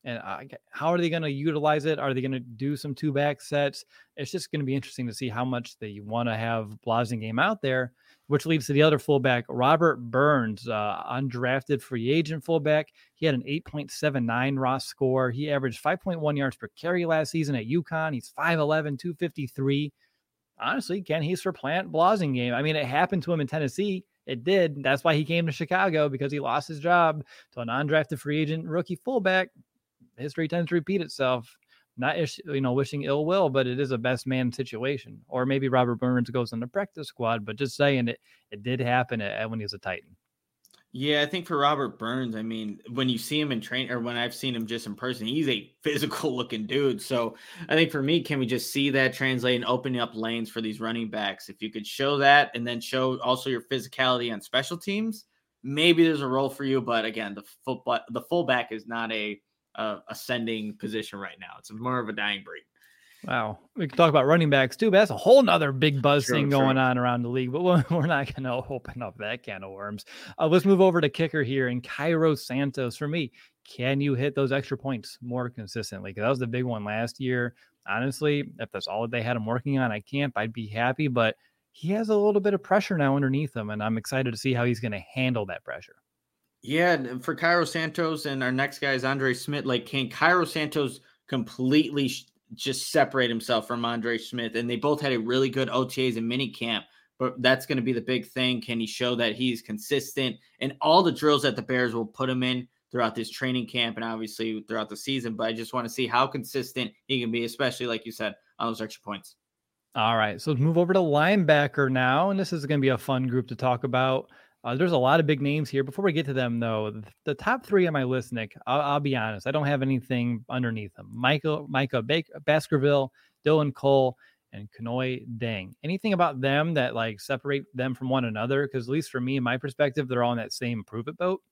And I, how are they going to utilize it? Are they going to do some two back sets? It's just going to be interesting to see how much they want to have Blasingame out there, which leads to the other fullback, Robert Burns, uh, undrafted free agent fullback. He had an eight point seven nine raw score. He averaged five point one yards per carry last season at UConn. He's five eleven, two fifty-three. Honestly, can he supplant Blasingame? I mean, it happened to him in Tennessee. It did. That's why he came to Chicago, because he lost his job to an undrafted free agent rookie fullback. History tends to repeat itself. Not, you know, wishing ill will, but it is a best man situation. Or maybe Robert Burns goes on the practice squad, but just saying it, it did happen at, when he was a Titan. Yeah, I think for Robert Burns, I mean, when you see him in train, or when I've seen him just in person, he's a physical looking dude. So I think for me, can we just see that translate and opening up lanes for these running backs? If you could show that and then show also your physicality on special teams, maybe there's a role for you. But again, the football, the fullback is not a Uh, ascending position right now. It's more of a dying breed. Wow. We can talk about running backs too, but that's a whole nother big buzz True, thing true. going on around the league, but we're, we're not going to open up that can of worms. Uh, let's move over to kicker here, and Cairo Santos. For me, can you hit those extra points more consistently? Because that was the big one last year. Honestly, if that's all that they had him working on, I can't, I'd be happy, but he has a little bit of pressure now underneath him, and I'm excited to see how he's going to handle that pressure. Yeah, and for Cairo Santos, and our next guy is Andre Smith. Like, can Cairo Santos completely sh- just separate himself from Andre Smith? And they both had a really good O T As and mini camp, but that's going to be the big thing. Can he show that he's consistent in all the drills that the Bears will put him in throughout this training camp and obviously throughout the season? But I just want to see how consistent he can be, especially like you said, on those extra points. All right, so let's move over to linebacker now, and this is going to be a fun group to talk about. Uh, there's a lot of big names here. Before we get to them, though, the, the top three on my list, Nick, I'll, I'll be honest, I don't have anything underneath them. Michael, Micah Baker, Baskerville, Dylan Cole, and Kanoy Dang. Anything about them that like separate them from one another? Because at least for me, in my perspective, they're all in that same prove it boat.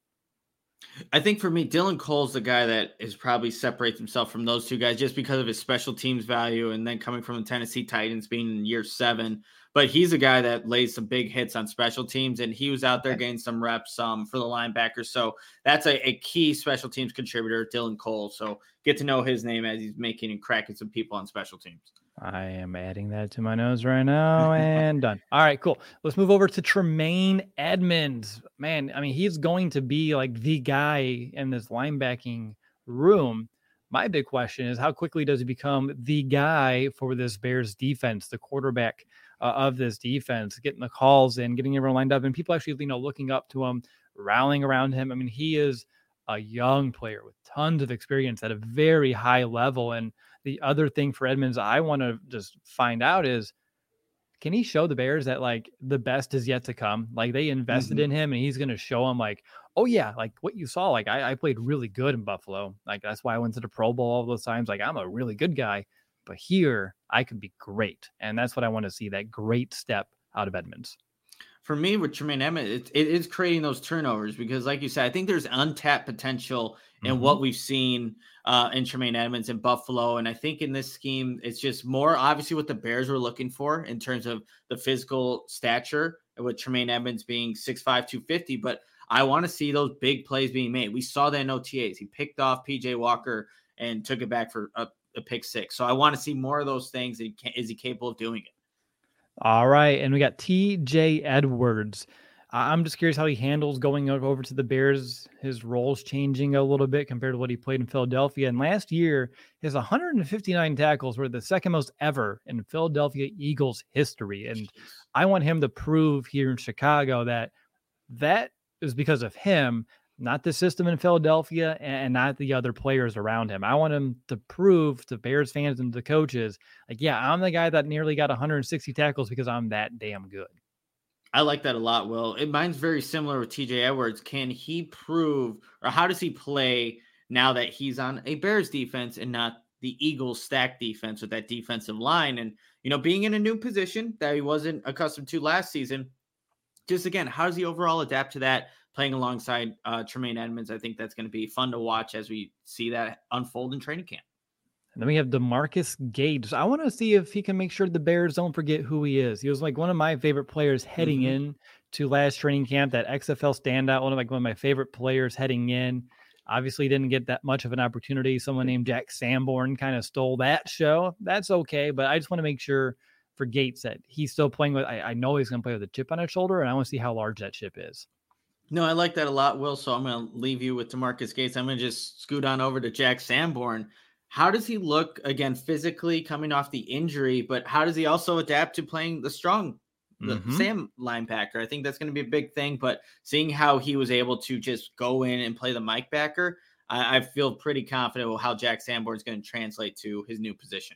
I think for me, Dylan Cole's the guy that is probably separates himself from those two guys just because of his special teams value, and then coming from the Tennessee Titans being in year seven. But he's a guy that lays some big hits on special teams, and he was out there getting some reps um, for the linebackers. So that's a, a key special teams contributor, Dylan Cole. So get to know his name as he's making and cracking some people on special teams. I am adding that to my nose right now, and done. All right, cool. Let's move over to Tremaine Edmonds. Man, I mean, he's going to be like the guy in this linebacking room. My big question is, how quickly does he become the guy for this Bears defense, the quarterback uh, of this defense, getting the calls in, getting everyone lined up, and people actually, you know, looking up to him, rallying around him. I mean, he is a young player with tons of experience at a very high level. And the other thing for Edmonds I want to just find out is, can he show the Bears that like the best is yet to come? Like they invested mm-hmm. in him, and he's going to show them like, oh yeah, like what you saw, like I, I played really good in Buffalo. Like that's why I went to the Pro Bowl all those times. Like I'm a really good guy, but here I could be great. And that's what I want to see, that great step out of Edmonds. For me, with Tremaine Edmonds, it, it is creating those turnovers because, like you said, I think there's untapped potential in mm-hmm. what we've seen uh, in Tremaine Edmonds in Buffalo. And I think in this scheme, it's just more obviously what the Bears were looking for in terms of the physical stature, with Tremaine Edmonds being six five, two fifty. But I want to see those big plays being made. We saw that in O T As. He picked off P J Walker and took it back for a, a pick six. So I want to see more of those things. Is he capable of doing it? All right, and we got T J Edwards. I'm just curious how he handles going over to the Bears. His role's changing a little bit compared to what he played in Philadelphia. And last year, his one hundred fifty-nine tackles were the second most ever in Philadelphia Eagles history. And I want him to prove here in Chicago that that is because of him, not the system in Philadelphia and not the other players around him. I want him to prove to Bears fans and to coaches, like, yeah, I'm the guy that nearly got one hundred sixty tackles because I'm that damn good. I like that a lot, Will. It, mine's very similar with T J Edwards. Can he prove, or how does he play now that he's on a Bears defense and not the Eagles stacked defense with that defensive line? And, you know, being in a new position that he wasn't accustomed to last season, just again, how does he overall adapt to that? Playing alongside uh, Tremaine Edmonds, I think that's going to be fun to watch as we see that unfold in training camp. And then we have DeMarcus Gates. I want to see if he can make sure the Bears don't forget who he is. He was like one of my favorite players heading mm-hmm. in to last training camp, that X F L standout, one of like one of my favorite players heading in. Obviously didn't get that much of an opportunity. Someone named Jack Sanborn kind of stole that show. That's okay, but I just want to make sure for Gates that he's still playing with, I, I know he's going to play with a chip on his shoulder, and I want to see how large that chip is. No, I like that a lot, Will. So I'm going to leave you with DeMarcus Gates. I'm going to just scoot on over to Jack Sanborn. How does he look, again, physically coming off the injury, but how does he also adapt to playing the strong the Mm-hmm. Sam linebacker? I think that's going to be a big thing, but seeing how he was able to just go in and play the Mike backer, I, I feel pretty confident with how Jack Sanborn is going to translate to his new position.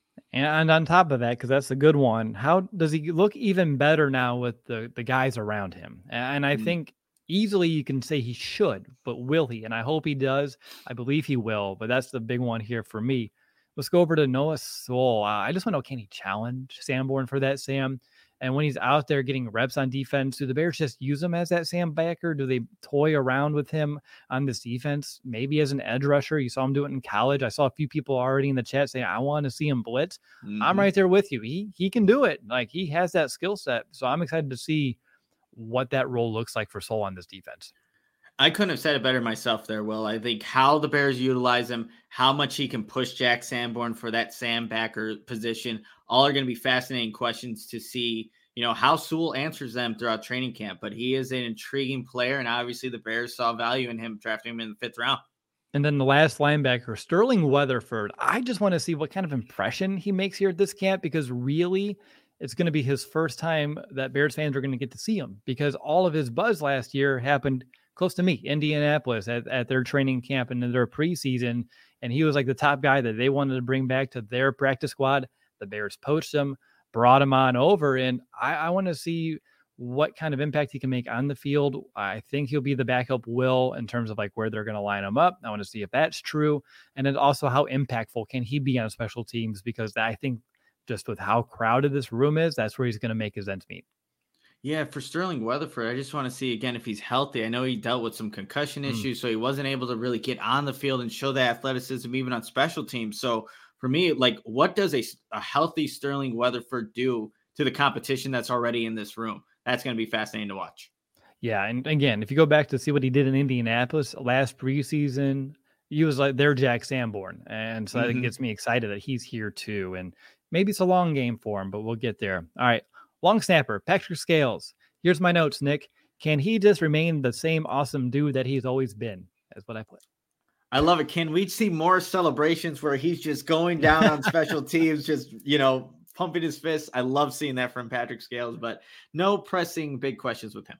And on top of that, because that's a good one, how does he look even better now with the, the guys around him? And I mm. think easily you can say he should, but will he? And I hope he does. I believe he will, but that's the big one here for me. Let's go over to Noah Sewell. Uh, I just want to know, can he challenge Sanborn for that, Sam? And when he's out there getting reps on defense, do the Bears just use him as that Sam backer? Do they toy around with him on this defense? Maybe as an edge rusher. You saw him do it in college. I saw a few people already in the chat saying, I want to see him blitz. Mm-hmm. I'm right there with you. He he can do it. Like, he has that skill set. So I'm excited to see what that role looks like for Sewell on this defense. I couldn't have said it better myself there, Will. I think how the Bears utilize him, how much he can push Jack Sanborn for that Sam backer position, all are going to be fascinating questions to see, you know, how Sewell answers them throughout training camp. But he is an intriguing player, and obviously the Bears saw value in him, drafting him in the fifth round. And then the last linebacker, Sterling Weatherford. I just want to see what kind of impression he makes here at this camp, because really it's going to be his first time that Bears fans are going to get to see him, because all of his buzz last year happened close to me, Indianapolis, at, at their training camp and in their preseason. And he was like the top guy that they wanted to bring back to their practice squad. The Bears poached him, brought him on over. And I, I want to see what kind of impact he can make on the field. I think he'll be the backup Will in terms of like where they're going to line him up. I want to see if that's true. And then also how impactful can he be on special teams? Because I think just with how crowded this room is, that's where he's going to make his ends meet. Yeah, for Sterling Weatherford, I just want to see, again, if he's healthy. I know he dealt with some concussion mm. issues, so he wasn't able to really get on the field and show that athleticism even on special teams. So for me, like, what does a, a healthy Sterling Weatherford do to the competition that's already in this room? That's going to be fascinating to watch. Yeah, and again, if you go back to see what he did in Indianapolis last preseason, he was like their Jack Sanborn. And so mm-hmm. that gets me excited that he's here too. And maybe it's a long game for him, but we'll get there. All right. Long snapper, Patrick Scales. Here's my notes, Nick. Can he just remain the same awesome dude that he's always been? That's what I put. I love it. Can we see more celebrations where he's just going down on special teams, just, you know, pumping his fists? I love seeing that from Patrick Scales, but no pressing big questions with him.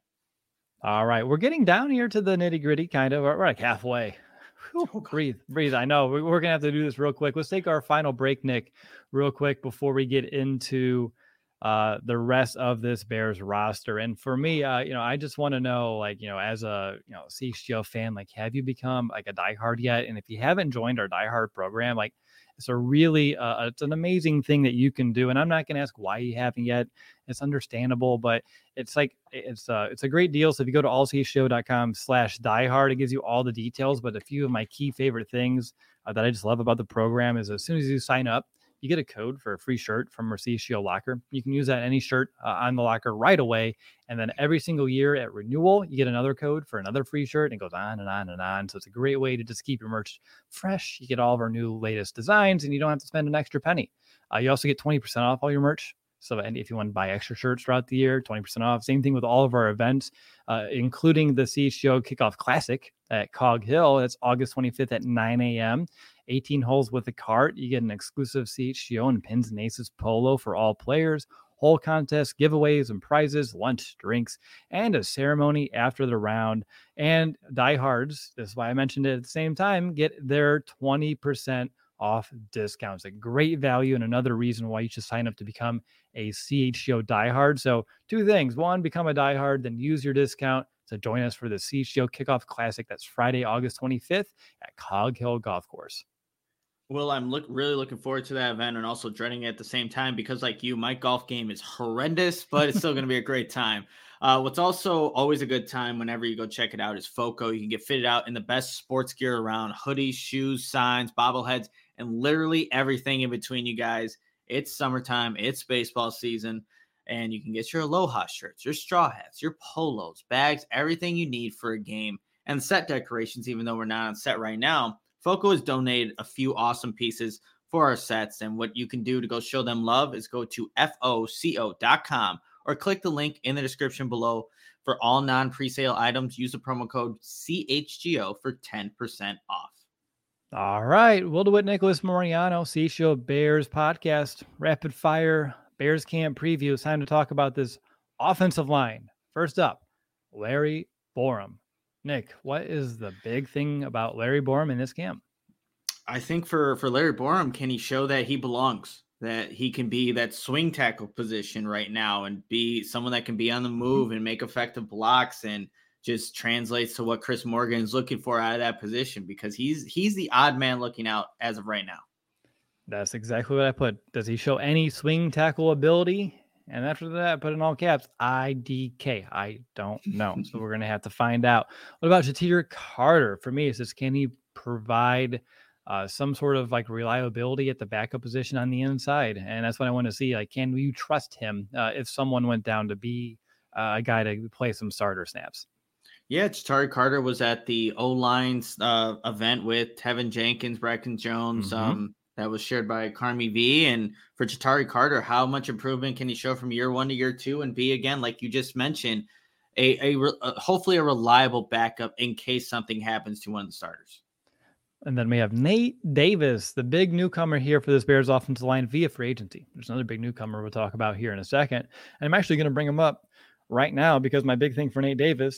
All right. We're getting down here to the nitty gritty, kind of. We're like halfway. Whew, breathe, breathe. I know we're going to have to do this real quick. Let's take our final break, Nick, real quick before we get into uh, the rest of this Bears roster. And for me, uh, you know, I just want to know, like, you know, as a, you know, C H G O fan, like, have you become like a diehard yet? And if you haven't joined our diehard program, like, it's a really, uh, it's an amazing thing that you can do. And I'm not going to ask why you haven't yet. It's understandable, but it's like, it's uh it's a great deal. So if you go to all c h g o dot com slash diehard, it gives you all the details. But a few of my key favorite things uh, that I just love about the program is as soon as you sign up, you get a code for a free shirt from our C H G O locker. You can use that any shirt uh, on the locker right away. And then every single year at renewal, you get another code for another free shirt, and it goes on and on and on. So it's a great way to just keep your merch fresh. You get all of our new latest designs, and you don't have to spend an extra penny. Uh, you also get twenty percent off all your merch. So and if you want to buy extra shirts throughout the year, twenty percent off. Same thing with all of our events, uh, including the C H G O Kickoff Classic at Cog Hill. That's August twenty-fifth at nine a.m. eighteen holes with a cart. You get an exclusive C H G O and Pins and Aces polo for all players, whole contest, giveaways and prizes, lunch, drinks, and a ceremony after the round. And diehards, this is why I mentioned it at the same time, get their twenty percent off discounts. A great value and another reason why you should sign up to become a C H G O diehard. So two things. One, become a diehard, then use your discount to join us for the C H G O Kickoff Classic. That's Friday, August twenty-fifth at Cog Hill Golf Course. Well, I'm look really looking forward to that event and also dreading it at the same time because, like you, my golf game is horrendous, but it's still going to be a great time. Uh, what's also always a good time whenever you go check it out is FOCO. You can get fitted out in the best sports gear around: hoodies, shoes, signs, bobbleheads, and literally everything in between, you guys. It's summertime. It's baseball season. And you can get your Aloha shirts, your straw hats, your polos, bags, everything you need for a game and set decorations, even though we're not on set right now, Foco has donated a few awesome pieces for our sets. And what you can do to go show them love is go to foco dot com or click the link in the description below. For all non-presale items, use the promo code C H G O for ten percent off. All right. We'll do it. Nicholas Moriano, C Show Bears podcast, rapid fire Bears camp preview. It's time to talk about this offensive line. First up, Larry Borom. Nick, what is the big thing about Larry Borom in this camp? I think for, for Larry Borom, can he show that he belongs? That he can be that swing tackle position right now and be someone that can be on the move and make effective blocks and just translates to what Chris Morgan is looking for out of that position, because he's he's the odd man looking out as of right now. That's exactly what I put. Does he show any swing tackle ability? And after that, I put in all caps, I D K. I don't know. So we're going to have to find out. What about Ja'Tyre Carter? For me, it's just, can he provide Uh, some sort of like reliability at the backup position on the inside? And that's what I want to see. Like, can you trust him uh, if someone went down to be uh, a guy to play some starter snaps? Yeah, Ja'Tyre Carter was at the O-line uh, event with Tevin Jenkins, Bracken Jones. Mm-hmm. Um, that was shared by Carmi V. And for Ja'Tyre Carter, how much improvement can he show from year one to year two and be, again, like you just mentioned, a, a, a hopefully a reliable backup in case something happens to one of the starters? And then we have Nate Davis, the big newcomer here for this Bears offensive line via free agency. There's another big newcomer we'll talk about here in a second. And I'm actually going to bring him up right now because my big thing for Nate Davis,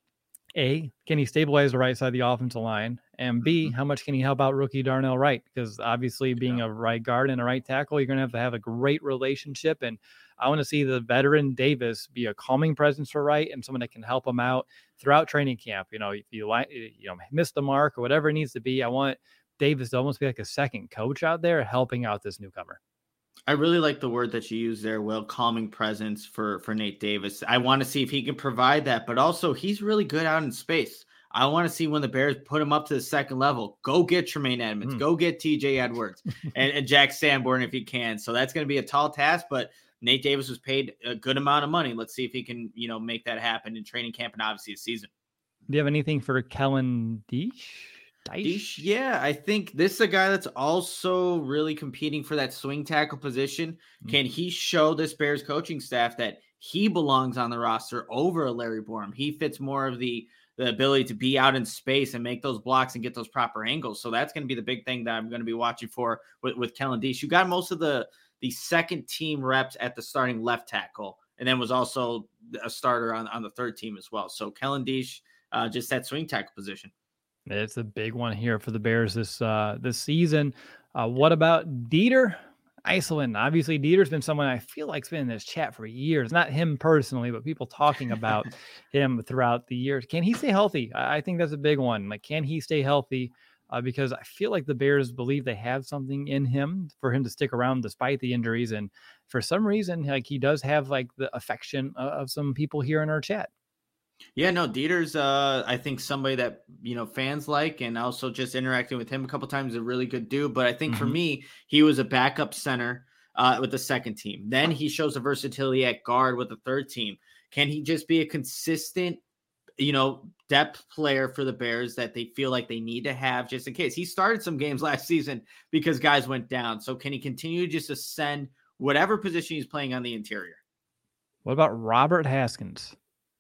A, can he stabilize the right side of the offensive line? And B, how much can he help out rookie Darnell Wright? Because obviously being a right guard and a right tackle, you're going to have to have a great relationship. And I want to see the veteran Davis be a calming presence for Wright and someone that can help him out throughout training camp. You know, if you like, you know, miss the mark or whatever it needs to be, I want Davis to almost be like a second coach out there helping out this newcomer. I really like the word that you use there, Will, calming presence for, for Nate Davis. I want to see if he can provide that, but also he's really good out in space. I want to see when the Bears put him up to the second level, go get Tremaine Edmonds, mm. go get T J Edwards and, and Jack Sanborn if you can. So that's going to be a tall task, but Nate Davis was paid a good amount of money. Let's see if he can, you know, make that happen in training camp and obviously the season. Do you have anything for Kellen Diesch? Diesch? Yeah, I think this is a guy that's also really competing for that swing tackle position. Mm-hmm. Can he show this Bears coaching staff that he belongs on the roster over Larry Borom? He fits more of the the ability to be out in space and make those blocks and get those proper angles. So that's going to be the big thing that I'm going to be watching for with, with Kellen Diesch. You got most of the the second team reps at the starting left tackle, and then was also a starter on, on the third team as well. So Kellen Diesch, uh, just that swing tackle position. It's a big one here for the Bears this uh, this season. Uh, what about Dieter Iselin? Obviously, Dieter's been someone I feel like's been in this chat for years. Not him personally, but people talking about him throughout the years. Can he stay healthy? I think that's a big one. Like, can he stay healthy? Uh, because I feel like the Bears believe they have something in him for him to stick around despite the injuries. And for some reason, like, he does have like the affection of, of some people here in our chat. Yeah, no, Dieter's, uh, I think somebody that, you know, fans like, and also just interacting with him a couple times, a really good dude. But I think mm-hmm. for me, he was a backup center uh, with the second team. Then he shows a versatility at guard with the third team. Can he just be a consistent, you know, depth player for the Bears that they feel like they need to have just in case? He started some games last season because guys went down. So can he continue to just ascend whatever position he's playing on the interior? What about Robert Haskins?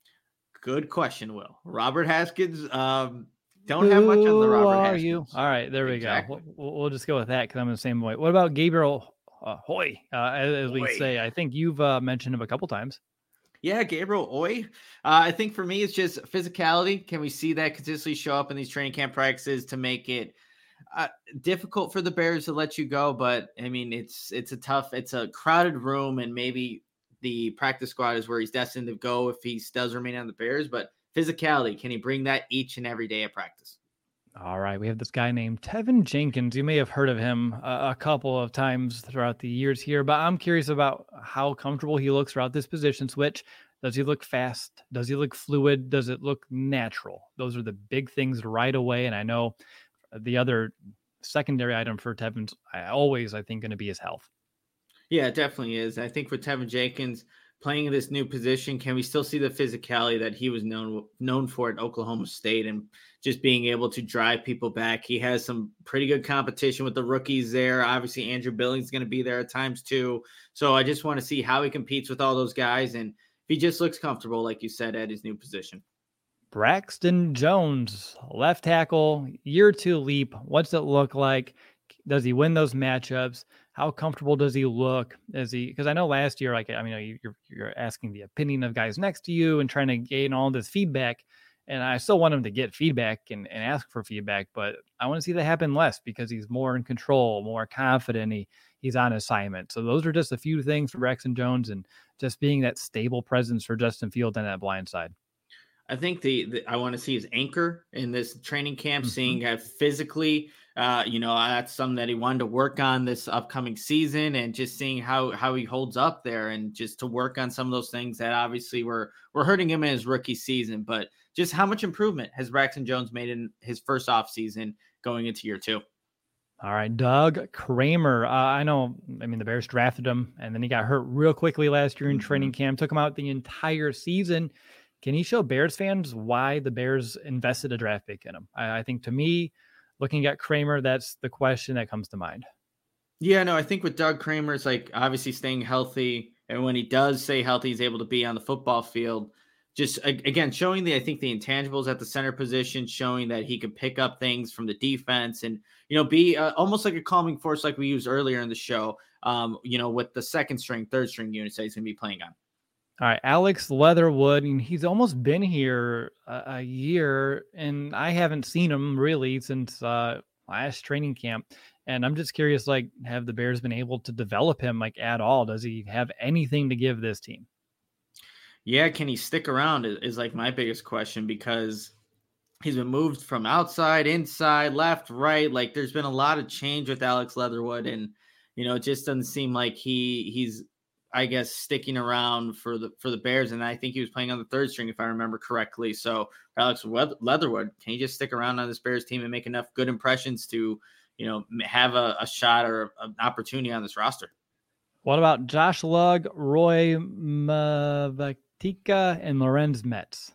Good question, Will. Robert Haskins, um, don't have much on the Robert Who are Haskins. You? All right, there exactly. we go. We'll, we'll just go with that because I'm in the same way. What about Gabriel uh, Hoy, uh, as, as we say? I think you've uh, mentioned him a couple times. Yeah, Gabriel Oy. Uh, I think for me, it's just physicality. Can we see that consistently show up in these training camp practices to make it uh, difficult for the Bears to let you go? But I mean, it's it's a tough, it's a crowded room, and maybe the practice squad is where he's destined to go if he does remain on the Bears. But physicality, can he bring that each and every day at practice? All right, we have this guy named Tevin Jenkins. You may have heard of him a, a couple of times throughout the years here, but I'm curious about how comfortable he looks throughout this position switch. Does he look fast? Does he look fluid? Does it look natural? Those are the big things right away. And I know the other secondary item for Tevin's I always, I think, going to be his health. Yeah, it definitely is. I think for Tevin Jenkins, playing this new position, can we still see the physicality that he was known known for at Oklahoma State and just being able to drive people back? He has some pretty good competition with the rookies there. Obviously, Andrew Billings is going to be there at times too. So I just want to see how he competes with all those guys and if he just looks comfortable, like you said, at his new position. Braxton Jones, left tackle, year two leap. What's it look like? Does he win those matchups? How comfortable does he look? Is he, because I know last year, like, I mean, you're, you're asking the opinion of guys next to you and trying to gain all this feedback. And I still want him to get feedback and, and ask for feedback, but I want to see that happen less because he's more in control, more confident. He, he's on assignment. So those are just a few things for Braxton Jones and just being that stable presence for Justin Fields on that blind side. I think the, the I want to see his anchor in this training camp, Mm-hmm. seeing how physically, uh, you know, that's something that he wanted to work on this upcoming season, and just seeing how how he holds up there, and just to work on some of those things that obviously were were hurting him in his rookie season. But just how much improvement has Braxton Jones made in his first offseason going into year two? All right, Doug Kramer. Uh, I know, I mean, the Bears drafted him, and then he got hurt real quickly last year in Mm-hmm. training camp, took him out the entire season. Can he show Bears fans why the Bears invested a draft pick in him? I, I think to me, looking at Kramer, that's the question that comes to mind. Yeah, no, I think with Doug Kramer, it's like obviously staying healthy. And when he does stay healthy, he's able to be on the football field. Just, again, showing the, I think, the intangibles at the center position, showing that he could pick up things from the defense and, you know, be uh, almost like a calming force like we used earlier in the show, um, you know, with the second string, third string units that he's going to be playing on. All right, Alex Leatherwood, and he's almost been here a, a year, and I haven't seen him really since uh, last training camp. And I'm just curious, like, have the Bears been able to develop him, like, at all? Does he have anything to give this team? Yeah, can he stick around is, is like my biggest question, because he's been moved from outside, inside, left, right. Like, there's been a lot of change with Alex Leatherwood, and, you know, it just doesn't seem like he he's – I guess, sticking around for the for the Bears. And I think he was playing on the third string, if I remember correctly. So Alex Leatherwood, can he just stick around on this Bears team and make enough good impressions to, you know, have a, a shot or an opportunity on this roster? What about Josh Lugg, Roy Mavatika, and Lorenz Metz?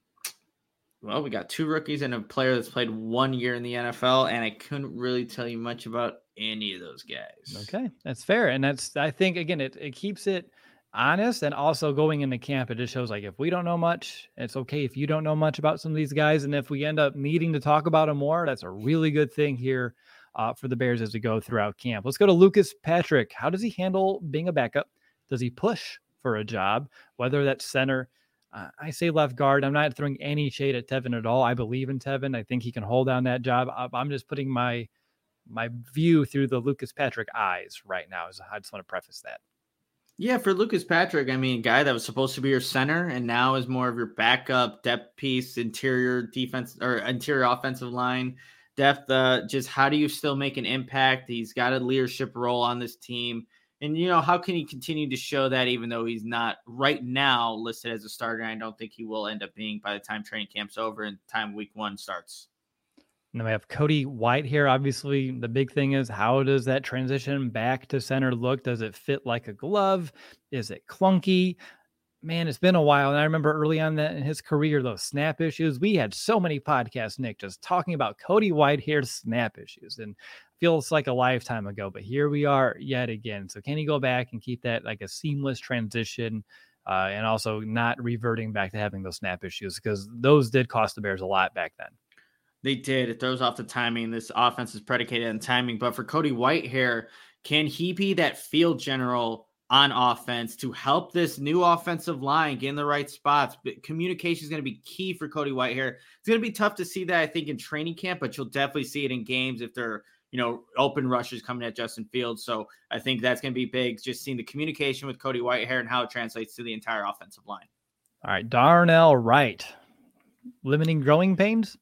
Well, we got two rookies and a player that's played one year in the N F L, and I couldn't really tell you much about any of those guys. Okay, that's fair. And that's, I think, again, it, it keeps it honest, and also going into camp, it just shows, like, if we don't know much, it's okay if you don't know much about some of these guys. And if we end up needing to talk about them more, that's a really good thing here uh, for the Bears as we go throughout camp. Let's go to Lucas Patrick. How does he handle being a backup? Does he push for a job, whether that's center? Uh, I say left guard. I'm not throwing any shade at Tevin at all. I believe in Tevin. I think he can hold down that job. I'm just putting my my view through the Lucas Patrick eyes right now. So I just want to preface that. Yeah, for Lucas Patrick, I mean, guy that was supposed to be your center and now is more of your backup depth piece, interior defense or interior offensive line depth. Uh, just how do you still make an impact? He's got a leadership role on this team. And, you know, how can he continue to show that even though he's not right now listed as a starter? I don't think he will end up being by the time training camp's over and time week one starts. And then we have Cody White here. Obviously, the big thing is, how does that transition back to center look? Does it fit like a glove? Is it clunky? Man, it's been a while. And I remember early on that in his career, those snap issues, we had so many podcasts, Nick, just talking about Cody Whitehair's snap issues. And feels like a lifetime ago, but here we are yet again. So can he go back and keep that like a seamless transition uh, and also not reverting back to having those snap issues? Because those did cost the Bears a lot back then. They did. It throws off the timing. This offense is predicated on timing. But for Cody Whitehair, can he be that field general on offense to help this new offensive line get in the right spots? But communication is going to be key for Cody Whitehair. It's going to be tough to see that, I think, in training camp, but you'll definitely see it in games if they're, you know, open rushers coming at Justin Fields. So I think that's going to be big, just seeing the communication with Cody Whitehair and how it translates to the entire offensive line. All right, Darnell Wright, limiting growing pains.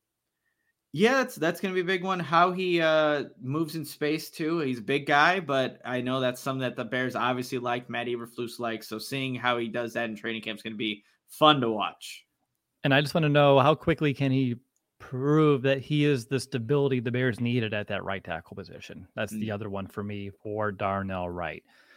Yeah, that's that's going to be a big one. How he uh, moves in space, too. He's a big guy, but I know that's something that the Bears obviously like, Matt Eberflus likes. So seeing how he does that in training camp is going to be fun to watch. And I just want to know, how quickly can he prove that he is the stability the Bears needed at that right tackle position? That's mm-hmm. the other one for me for Darnell Wright.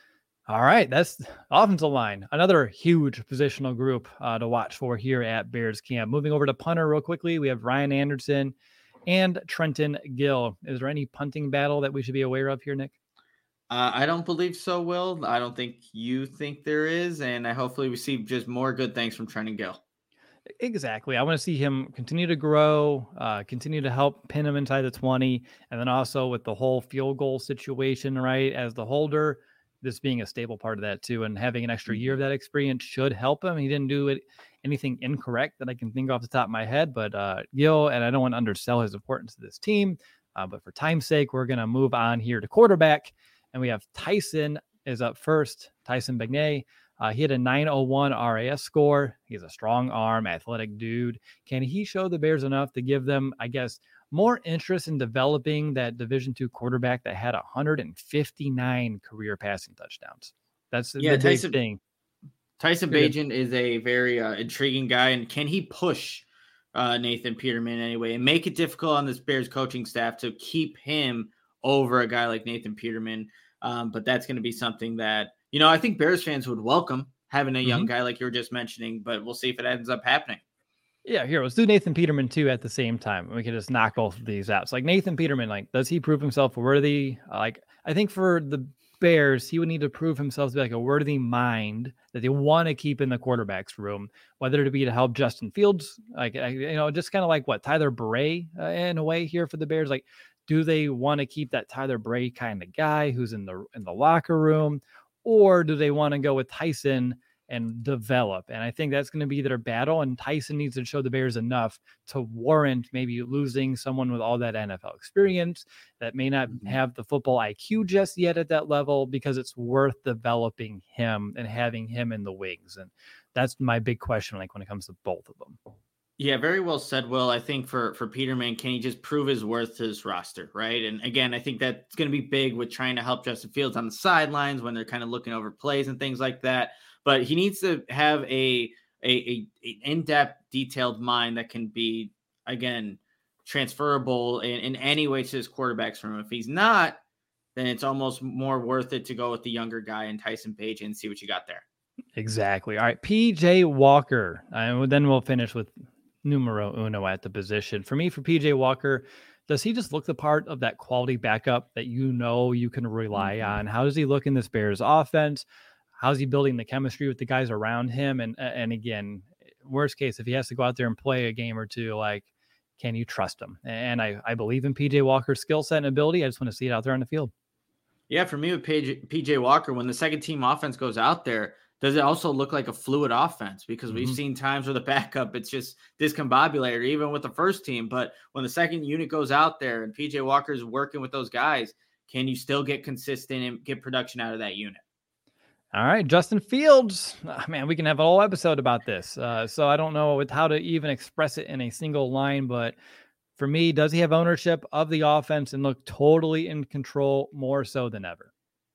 All right, that's offensive line. Another huge positional group uh, to watch for here at Bears camp. Moving over to punter real quickly, we have Ryan Anderson and Trenton Gill. Is there any punting battle that we should be aware of here, Nick? Uh, I don't believe so, Will. I don't think you think there is, and I hopefully receive just more good things from Trenton Gill. Exactly. I want to see him continue to grow, uh, continue to help pin him inside the twenty, and then also with the whole field goal situation, right, as the holder, this being a stable part of that too, and having an extra year of that experience should help him. He didn't do it anything incorrect that I can think off the top of my head, but uh, Gill, and I don't want to undersell his importance to this team, uh, but for time's sake, we're going to move on here to quarterback, and we have Tyson is up first, Tyson Bagnet. Uh, he had a nine oh one R A S score. He's a strong arm, athletic dude. Can he show the Bears enough to give them, I guess, more interest in developing that Division two quarterback that had one hundred fifty-nine career passing touchdowns? That's yeah, the Tyson, big thing. Tyson Bagent is a very uh, intriguing guy, and can he push uh, Nathan Peterman anyway and make it difficult on this Bears coaching staff to keep him over a guy like Nathan Peterman? Um, but that's going to be something that, you know, I think Bears fans would welcome having a young mm-hmm. guy like you were just mentioning, but we'll see if it ends up happening. Yeah, here, let's do Nathan Peterman too at the same time. We can just knock both of these out. So like Nathan Peterman, like, does he prove himself worthy? Uh, like, I think for the Bears, he would need to prove himself to be like a worthy mind that they want to keep in the quarterback's room, whether it be to help Justin Fields, like, you know, just kind of like what Tyler Bray uh, in a way here for the Bears. Like, do they want to keep that Tyler Bray kind of guy who's in the in the locker room? Or do they want to go with Tyson and develop? And I think that's going to be their battle. And Tyson needs to show the Bears enough to warrant maybe losing someone with all that N F L experience that may not have the football I Q just yet at that level, because it's worth developing him and having him in the wings. And that's my big question, like when it comes to both of them. Yeah, very well said, Will. I think for, for Peterman, can he just prove his worth to his roster, right? And again, I think that's going to be big with trying to help Justin Fields on the sidelines when they're kind of looking over plays and things like that. But he needs to have a, a, a, a in-depth, detailed mind that can be, again, transferable in, in any way to his quarterbacks from him. If he's not, then it's almost more worth it to go with the younger guy and Tyson Bagent and see what you got there. Exactly. All right, P J Walker. And then we'll finish with numero uno at the position. For me, for P J Walker, does he just look the part of that quality backup that you know you can rely mm-hmm. on? How does he look in this Bears offense? How's he building the chemistry with the guys around him? And and again, worst case, if he has to go out there and play a game or two, like, can you trust him? And I, I believe in P J Walker's skill set and ability. I just want to see it out there on the field. Yeah, for me with P J Walker, when the second team offense goes out there, does it also look like a fluid offense? Because we've mm-hmm. seen times where the backup, it's just discombobulated, even with the first team. But when the second unit goes out there and P J Walker is working with those guys, can you still get consistent and get production out of that unit? All right, Justin Fields. Oh, man, we can have a whole episode about this. Uh, so I don't know with how to even express it in a single line, but for me, does he have ownership of the offense and look totally in control more so than ever?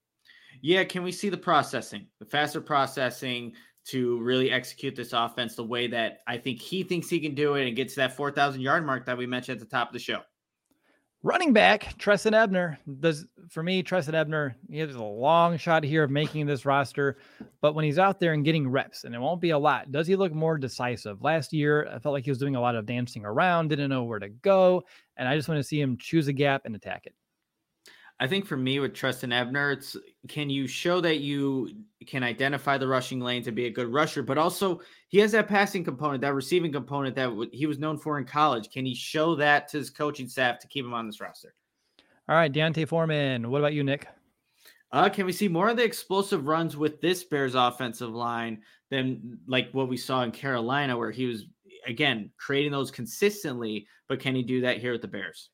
Yeah, can we see the processing, the faster processing to really execute this offense the way that I think he thinks he can do it and get to that four thousand yard mark that we mentioned at the top of the show? Running back, Trestan Ebner. Does for me, Trestan Ebner, he has a long shot here of making this roster, but when he's out there and getting reps, and it won't be a lot, does he look more decisive? Last year, I felt like he was doing a lot of dancing around, didn't know where to go, and I just want to see him choose a gap and attack it. I think for me with Trestan Ebner, it's can you show that you can identify the rushing lane to be a good rusher, but also he has that passing component, that receiving component that w- he was known for in college. Can he show that to his coaching staff to keep him on this roster? All right, D'Onta Foreman. What about you, Nick? Uh, can we see more of the explosive runs with this Bears offensive line than like what we saw in Carolina, where he was, again, creating those consistently, but can he do that here with the Bears?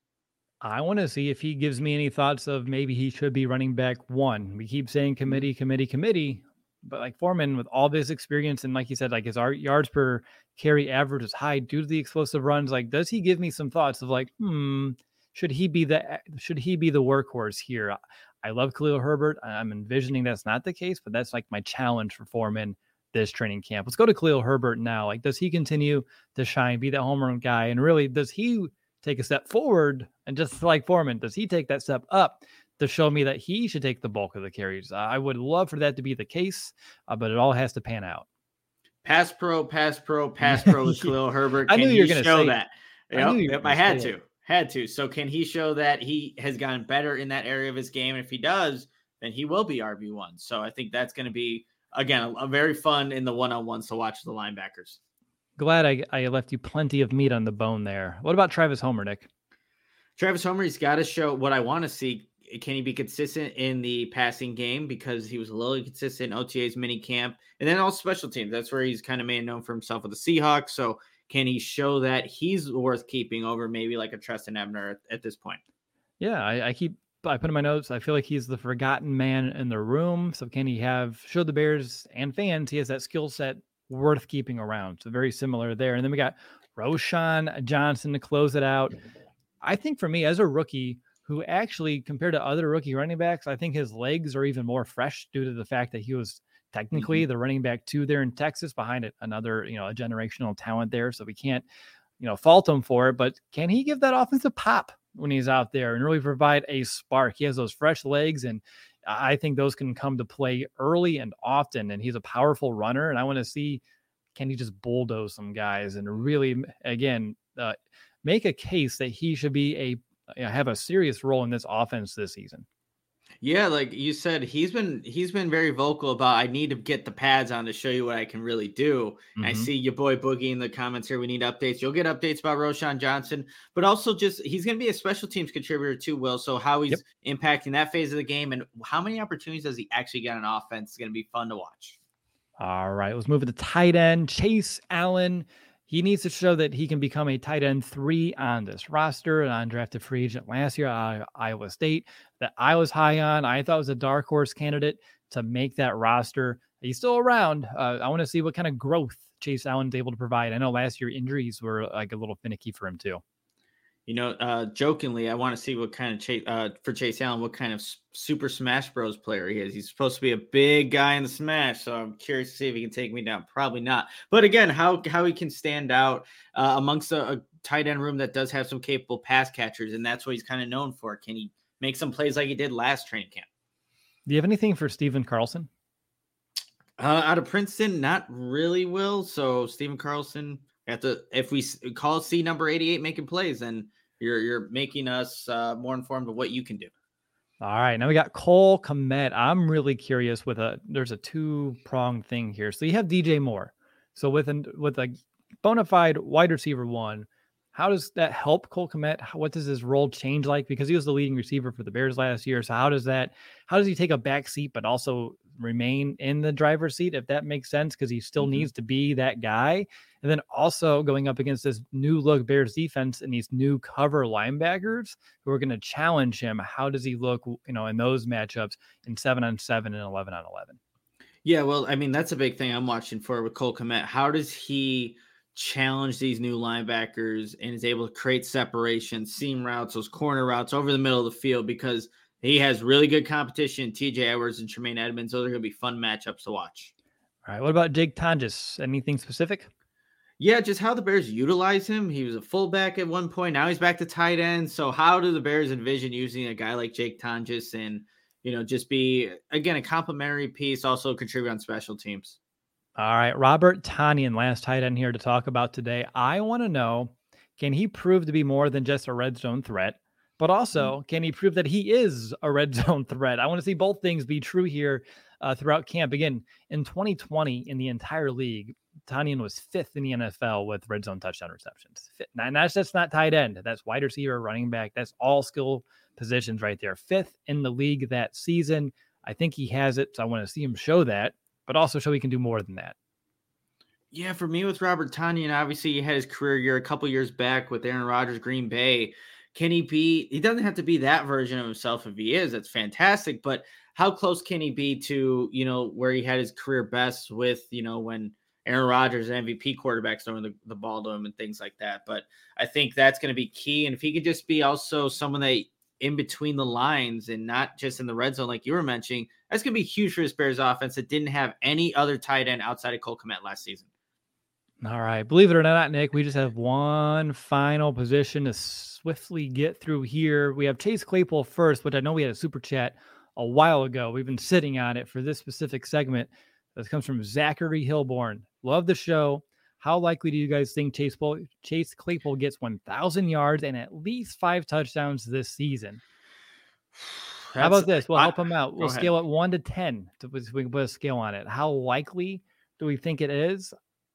I want to see if he gives me any thoughts of maybe he should be running back one. We keep saying committee, committee, committee, but like Foreman with all this experience and like you said, like his yards per carry average is high due to the explosive runs. Like, does he give me some thoughts of like, hmm, should he be the should he be the workhorse here? I love Khalil Herbert. I'm envisioning that's not the case, but that's like my challenge for Foreman this training camp. Let's go to Khalil Herbert now. Like, does he continue to shine, be that home run guy, and really does he take a step forward? And just like Foreman, does he take that step up to show me that he should take the bulk of the carries. Uh, I would love for that to be the case, uh, but it all has to pan out. Pass pro, pass pro, pass pro with Khalil Herbert. I Can knew you were he going to show say that? I Yep, knew you were yep, gonna I had say to, it. had to. So can he show that he has gotten better in that area of his game? And if he does, then he will be R B one. So I think that's going to be, again, a, a very fun in the one-on-ones to watch the linebackers. Glad I, I left you plenty of meat on the bone there. What about Travis Homer, Nick? Travis Homer, he's got to show what I want to see. Can he be consistent in the passing game? Because he was a little inconsistent in O T A's mini camp. And then all special teams. That's where he's kind of made known for himself with the Seahawks. So can he show that he's worth keeping over maybe like a Treston Ebner at, at this point? Yeah, I, I keep I put in my notes. I feel like he's the forgotten man in the room. So can he have show the Bears and fans he has that skill set worth keeping around? So very similar there. And then we got Roschon Johnson to close it out. I think for me as a rookie who actually compared to other rookie running backs, I think his legs are even more fresh due to the fact that he was technically mm-hmm. the running back two there in Texas behind it. Another, you know, a generational talent there. So we can't, you know, fault him for it, but can he give that offensive pop when he's out there and really provide a spark? He has those fresh legs, and I think those can come to play early and often. And he's a powerful runner. And I want to see, can he just bulldoze some guys and really, again, uh, make a case that he should be a, you know, have a serious role in this offense this season. Yeah, like you said, he's been he's been very vocal about I need to get the pads on to show you what I can really do. Mm-hmm. I see your boy Boogie in the comments here. We need updates. You'll get updates about Roschon Johnson, but also just he's going to be a special teams contributor too, Will. So how he's yep. impacting that phase of the game and how many opportunities does he actually get on offense is going to be fun to watch. All right, let's move to the tight end. Chase Allen. He needs to show that he can become a tight end three on this roster. An undrafted free agent last year at Iowa State that I was high on. I thought was a dark horse candidate to make that roster. He's still around. Uh, I want to see what kind of growth Chase Allen's able to provide. I know last year injuries were like a little finicky for him too. You know, uh, jokingly, I want to see what kind of Chase, uh, for Chase Allen, what kind of Super Smash Bros. Player he is. He's supposed to be a big guy in the Smash, so I'm curious to see if he can take me down. Probably not. But again, how how he can stand out uh, amongst a, a tight end room that does have some capable pass catchers, and that's what he's kind of known for. Can he make some plays like he did last training camp? Do you have anything for Stephen Carlson? Uh, out of Princeton, not really, Will. So Stephen Carlson, have to, if we call C number eighty-eight making plays, then You're you're making us uh, more informed of what you can do. All right, now we got Cole Kmet. I'm really curious with a. There's a two pronged thing here. So you have D J Moore. So with an with a bona fide wide receiver one, how does that help Cole Kmet? What does his role change like? Because he was the leading receiver for the Bears last year. So how does that? How does he take a back seat but also remain in the driver's seat, if that makes sense? Because he still mm-hmm. needs to be that guy. And then also going up against this new look Bears defense and these new cover linebackers who are going to challenge him. How does he look, you know, in those matchups in seven on seven and eleven on eleven? Yeah, well, I mean, that's a big thing I'm watching for with Cole Kmet. How does he challenge these new linebackers and is able to create separation, seam routes, those corner routes over the middle of the field? Because he has really good competition. T J Edwards and Tremaine Edmonds, those are going to be fun matchups to watch. All right, what about Jake Tonjes? Anything specific? Yeah, just how the Bears utilize him. He was a fullback at one point. Now he's back to tight end. So how do the Bears envision using a guy like Jake Tonjes and, you know, just be, again, a complimentary piece, also contribute on special teams? All right, Robert Tonyan, last tight end here to talk about today. I want to know, can he prove to be more than just a red zone threat? But also, can he prove that he is a red zone threat? I want to see both things be true here uh, throughout camp. Again, in twenty twenty, in the entire league, Tonyan was fifth in the N F L with red zone touchdown receptions. And that's just not tight end. That's wide receiver, running back. That's all skill positions right there. Fifth in the league that season. I think he has it. So I want to see him show that, but also show he can do more than that. Yeah, for me with Robert Tonyan, obviously he had his career year a couple years back with Aaron Rodgers, Green Bay. Can he be, he doesn't have to be that version of himself. If he is, that's fantastic. But how close can he be to, you know, where he had his career best with, you know, when Aaron Rodgers and M V P quarterbacks throwing the, the ball to him and things like that. But I think that's going to be key. And if he could just be also someone that in between the lines and not just in the red zone, like you were mentioning, that's going to be huge for this Bears offense that didn't have any other tight end outside of Cole Kmet last season. All right. Believe it or not, Nick, we just have one final position to swiftly get through here. We have Chase Claypool first, which I know we had a super chat a while ago. We've been sitting on it for this specific segment. This comes from Zachary Hilborn. Love the show. How likely do you guys think Chase, Claypool, Chase Claypool gets one thousand yards and at least five touchdowns this season? That's, How about this? We'll help I, him out. We'll scale it one to ten so we can put a scale on it. How likely do we think it is?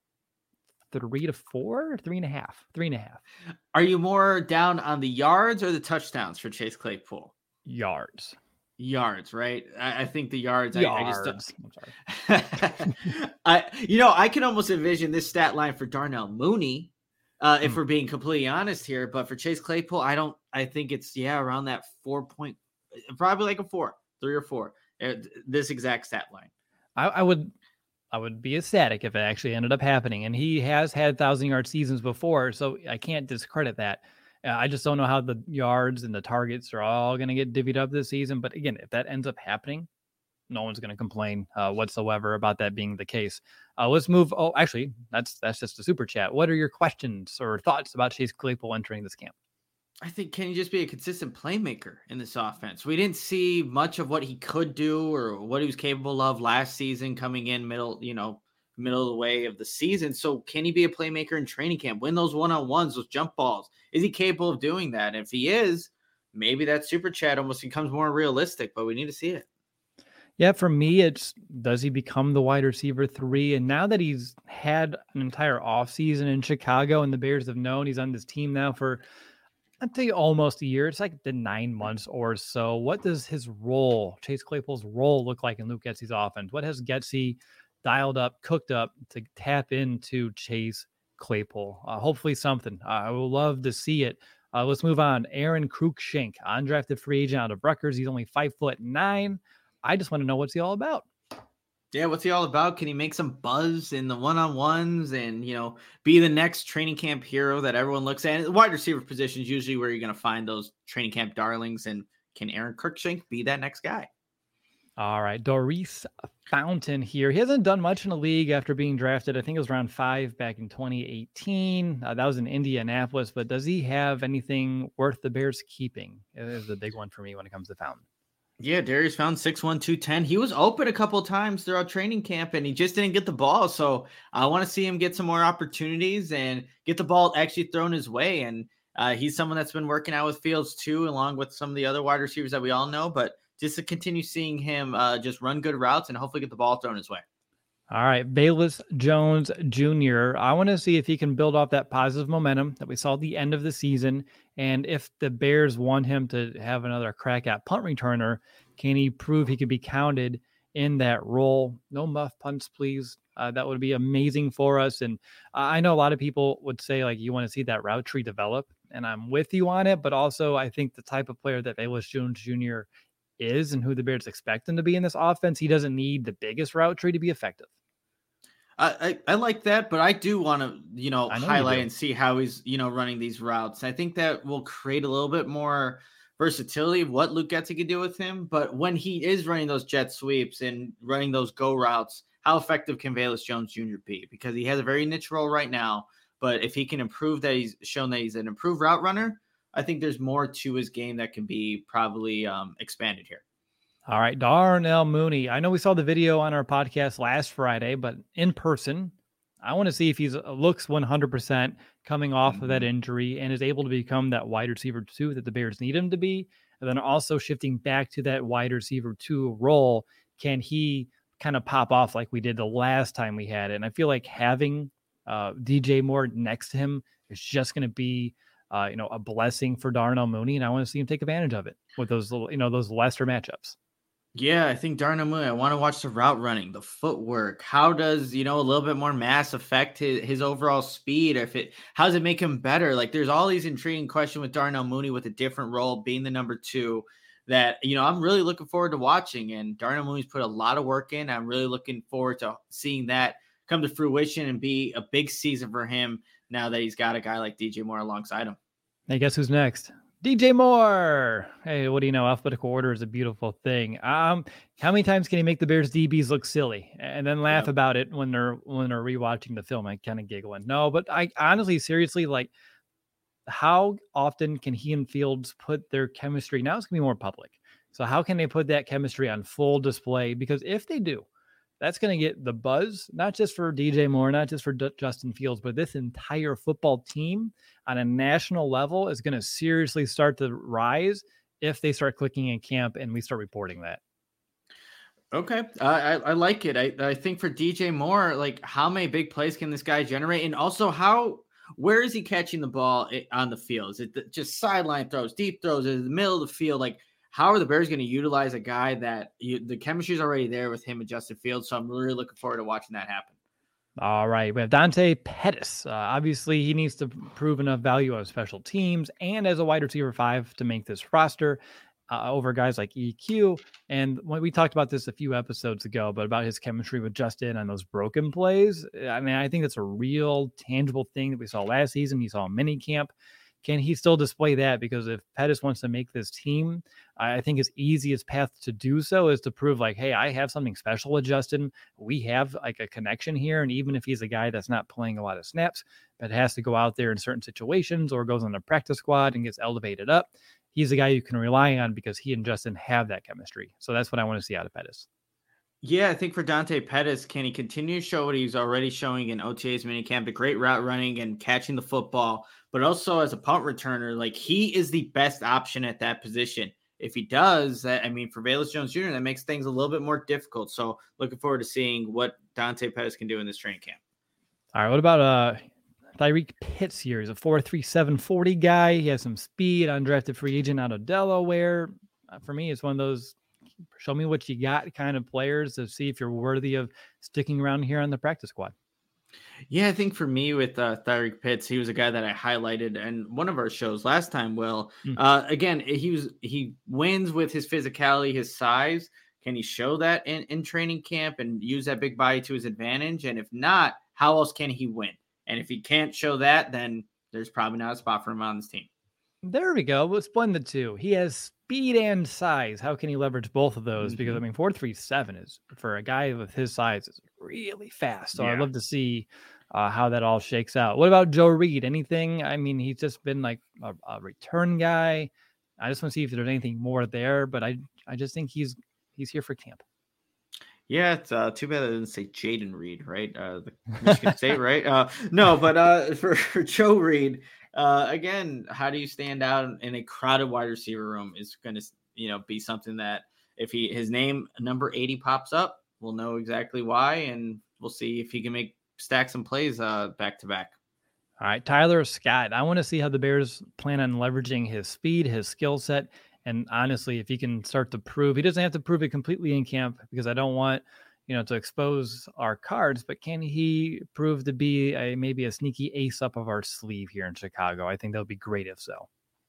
Three to four, three and a half, three and a half. Are you more down on the yards or the touchdowns for Chase Claypool? Yards. Yards, right? I, I think the yards. Yards. I, I just don't... I, you know, I can almost envision this stat line for Darnell Mooney, uh, if mm. we're being completely honest here. But for Chase Claypool, I don't. I think it's yeah around that four point, probably like a four, three or four. Uh, this exact stat line. I, I would. I would be ecstatic if it actually ended up happening. And he has had thousand-yard seasons before, so I can't discredit that. Uh, I just don't know how the yards and the targets are all going to get divvied up this season. But again, if that ends up happening, no one's going to complain uh, whatsoever about that being the case. Uh, let's move. Oh, actually, that's that's just a super chat. What are your questions or thoughts about Chase Claypool entering this camp? I think, can he just be a consistent playmaker in this offense? We didn't see much of what he could do or what he was capable of last season coming in middle, you know, middle of the way of the season. So can he be a playmaker in training camp, win those one-on-ones, those jump balls? Is he capable of doing that? And if he is, maybe that super chat almost becomes more realistic, but we need to see it. Yeah, for me, it's does he become the wide receiver three? And now that he's had an entire offseason in Chicago and the Bears have known he's on this team now for I'd say almost a year. It's like the nine months or so. What does his role, Chase Claypool's role, look like in Luke Getsy's offense? What has Getsy dialed up, cooked up to tap into Chase Claypool? Uh, hopefully something. Uh, I would love to see it. Uh, let's move on. Aaron Cruikshank, undrafted free agent out of Rutgers. He's only five foot nine. I just want to know what's he all about. Yeah, what's he all about? Can he make some buzz in the one-on-ones and, you know, be the next training camp hero that everyone looks at? And the wide receiver position is usually where you're going to find those training camp darlings. And can Aaron Cruikshank be that next guy? All right, Doris Fountain here. He hasn't done much in the league after being drafted. I think it was round five back in twenty eighteen. Uh, that was in Indianapolis. But does he have anything worth the Bears keeping? It is the big one for me when it comes to Fountain. Yeah, Darius Fountain, six one, two ten. He was open a couple of times throughout training camp, and he just didn't get the ball. So I want to see him get some more opportunities and get the ball actually thrown his way. And uh, he's someone that's been working out with Fields too, along with some of the other wide receivers that we all know. But just to continue seeing him uh, just run good routes and hopefully get the ball thrown his way. All right, Bayless Jones Junior I want to see if he can build off that positive momentum that we saw at the end of the season. And if the Bears want him to have another crack at punt returner, can he prove he could be counted in that role? No muff punts, please. Uh, that would be amazing for us. And I know a lot of people would say, like, you want to see that route tree develop. And I'm with you on it. But also, I think the type of player that Bayless Jones Junior is and who the Bears expect him to be in this offense, he doesn't need the biggest route tree to be effective. I, I, I like that, but I do want to, you know, know highlight and see how he's, you know, running these routes. I think that will create a little bit more versatility of what Luke Getsy can do with him. But when he is running those jet sweeps and running those go routes, how effective can Bayless Jones Junior be? Because he has a very niche role right now. But if he can improve that, he's shown that he's an improved route runner, I think there's more to his game that can be probably um, expanded here. All right, Darnell Mooney. I know we saw the video on our podcast last Friday, but in person, I want to see if he looks one hundred percent coming off mm-hmm. of that injury and is able to become that wide receiver two that the Bears need him to be. And then also shifting back to that wide receiver two role, can he kind of pop off like we did the last time we had it? And I feel like having uh, D J Moore next to him is just going to be uh, you know, a blessing for Darnell Mooney. And I want to see him take advantage of it with those little, you know, those lesser matchups. Yeah, I think Darnell Mooney, I want to watch the route running, the footwork. How does, you know, a little bit more mass affect his, his overall speed? If it, how does it make him better? Like, there's all these intriguing questions with Darnell Mooney with a different role, being the number two, that, you know, I'm really looking forward to watching. And Darnell Mooney's put a lot of work in. I'm really looking forward to seeing that come to fruition and be a big season for him now that he's got a guy like D J Moore alongside him. Hey, guess who's next? D J Moore. Hey, what do you know? Alphabetical order is a beautiful thing. Um, how many times can he make the Bears D Bs look silly and then laugh Yep. about it when they're when they're rewatching the film? I kind of giggling. No, but I honestly, seriously, like, how often can he and Fields put their chemistry? Now it's gonna be more public. So how can they put that chemistry on full display? Because if they do, that's going to get the buzz, not just for D J Moore, not just for D- Justin Fields, but this entire football team on a national level is going to seriously start to rise if they start clicking in camp and we start reporting that. Okay. Uh, I, I like it. I, I think for D J Moore, like, how many big plays can this guy generate? And also, how, where is he catching the ball on the field? Is it just sideline throws, deep throws, in the middle of the field? Like, how are the Bears going to utilize a guy that you, the chemistry is already there with him and Justin Fields? So I'm really looking forward to watching that happen. All right. We have Dante Pettis. Uh, obviously, he needs to prove enough value on special teams and as a wide receiver five to make this roster uh, over guys like E Q. And when we talked about this a few episodes ago, but about his chemistry with Justin on those broken plays. I mean, I think that's a real tangible thing that we saw last season. We saw in minicamp. Can he still display that? Because if Pettis wants to make this team, I think his easiest path to do so is to prove like, hey, I have something special with Justin. We have like a connection here. And even if he's a guy that's not playing a lot of snaps, but has to go out there in certain situations or goes on the practice squad and gets elevated up, he's a guy you can rely on because he and Justin have that chemistry. So that's what I want to see out of Pettis. Yeah, I think for Dante Pettis, can he continue to show what he's already showing in O T As minicamp, the great route running and catching the football, but also as a punt returner, like, he is the best option at that position. If he does that, I mean, for Velus Jones Junior, that makes things a little bit more difficult. So looking forward to seeing what Dante Pettis can do in this training camp. All right, what about uh Tyreek Pitts here? He's a four three seven forty guy. He has some speed, undrafted free agent out of Delaware. Uh, for me, it's one of those show me what you got kind of players to see if you're worthy of sticking around here on the practice squad. Yeah, I think for me with uh, Tyreek Pitts, he was a guy that I highlighted in one of our shows last time. Will Mm. uh, again, he was he wins with his physicality, his size. Can he show that in, in training camp and use that big body to his advantage? And if not, how else can he win? And if he can't show that, then there's probably not a spot for him on this team. There we go. Let's blend the two. He has speed and size. How can he leverage both of those? Mm-hmm. Because I mean, four three seven is for a guy with his size is really fast. So yeah. I'd love to see uh, how that all shakes out. What about Joe Reed? Anything? I mean, he's just been like a, a return guy. I just want to see if there's anything more there. But I, I just think he's he's here for camp. Yeah, it's uh, too bad I didn't say Jaden Reed, right? Uh, the Michigan State, right? Uh, no, but uh, for, for Joe Reed, uh, again, how do you stand out in a crowded wide receiver room is going to, you know, be something that if he his name number eighty pops up, we'll know exactly why, and we'll see if he can make stack some plays uh, back to back. All right, Tyler Scott. I want to see how the Bears plan on leveraging his speed, his skill set. And honestly, if he can start to prove, he doesn't have to prove it completely in camp because I don't want, you know, to expose our cards, but can he prove to be a, maybe a sneaky ace up of our sleeve here in Chicago? I think that would be great if so.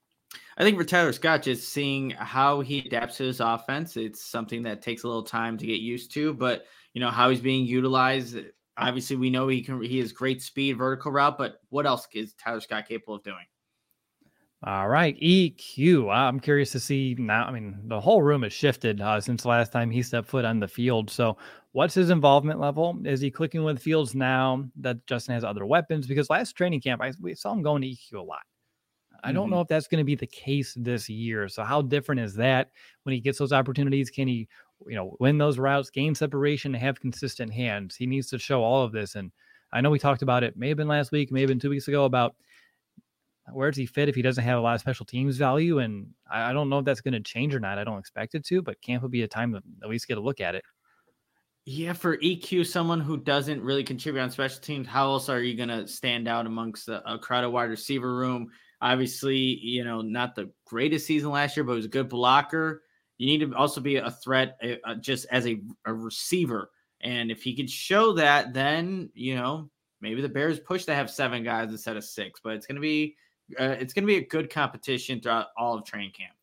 I think for Tyler Scott, just seeing how he adapts to his offense, it's something that takes a little time to get used to, but you know, how he's being utilized. Obviously we know he can, he has great speed, vertical route, but what else is Tyler Scott capable of doing? All right, E Q. I'm curious to see now. I mean, the whole room has shifted uh, since the last time he stepped foot on the field. So what's his involvement level? Is he clicking with Fields now that Justin has other weapons? Because last training camp, I we saw him going to E Q a lot. I don't mm-hmm. know if that's going to be the case this year. So how different is that when he gets those opportunities? Can he, you know, win those routes, gain separation, and have consistent hands? He needs to show all of this. And I know we talked about it, may have been last week, may have been two weeks ago, about where does he fit if he doesn't have a lot of special teams value? And I, I don't know if that's going to change or not. I don't expect it to, but camp will be a time to at least get a look at it. Yeah, for E Q, someone who doesn't really contribute on special teams, how else are you going to stand out amongst a, a crowded wide receiver room? Obviously, you know, not the greatest season last year, but he was a good blocker. You need to also be a threat uh, just as a, a receiver. And if he could show that, then, you know, maybe the Bears push to have seven guys instead of six, but it's going to be, Uh, it's going to be a good competition throughout all of training camp.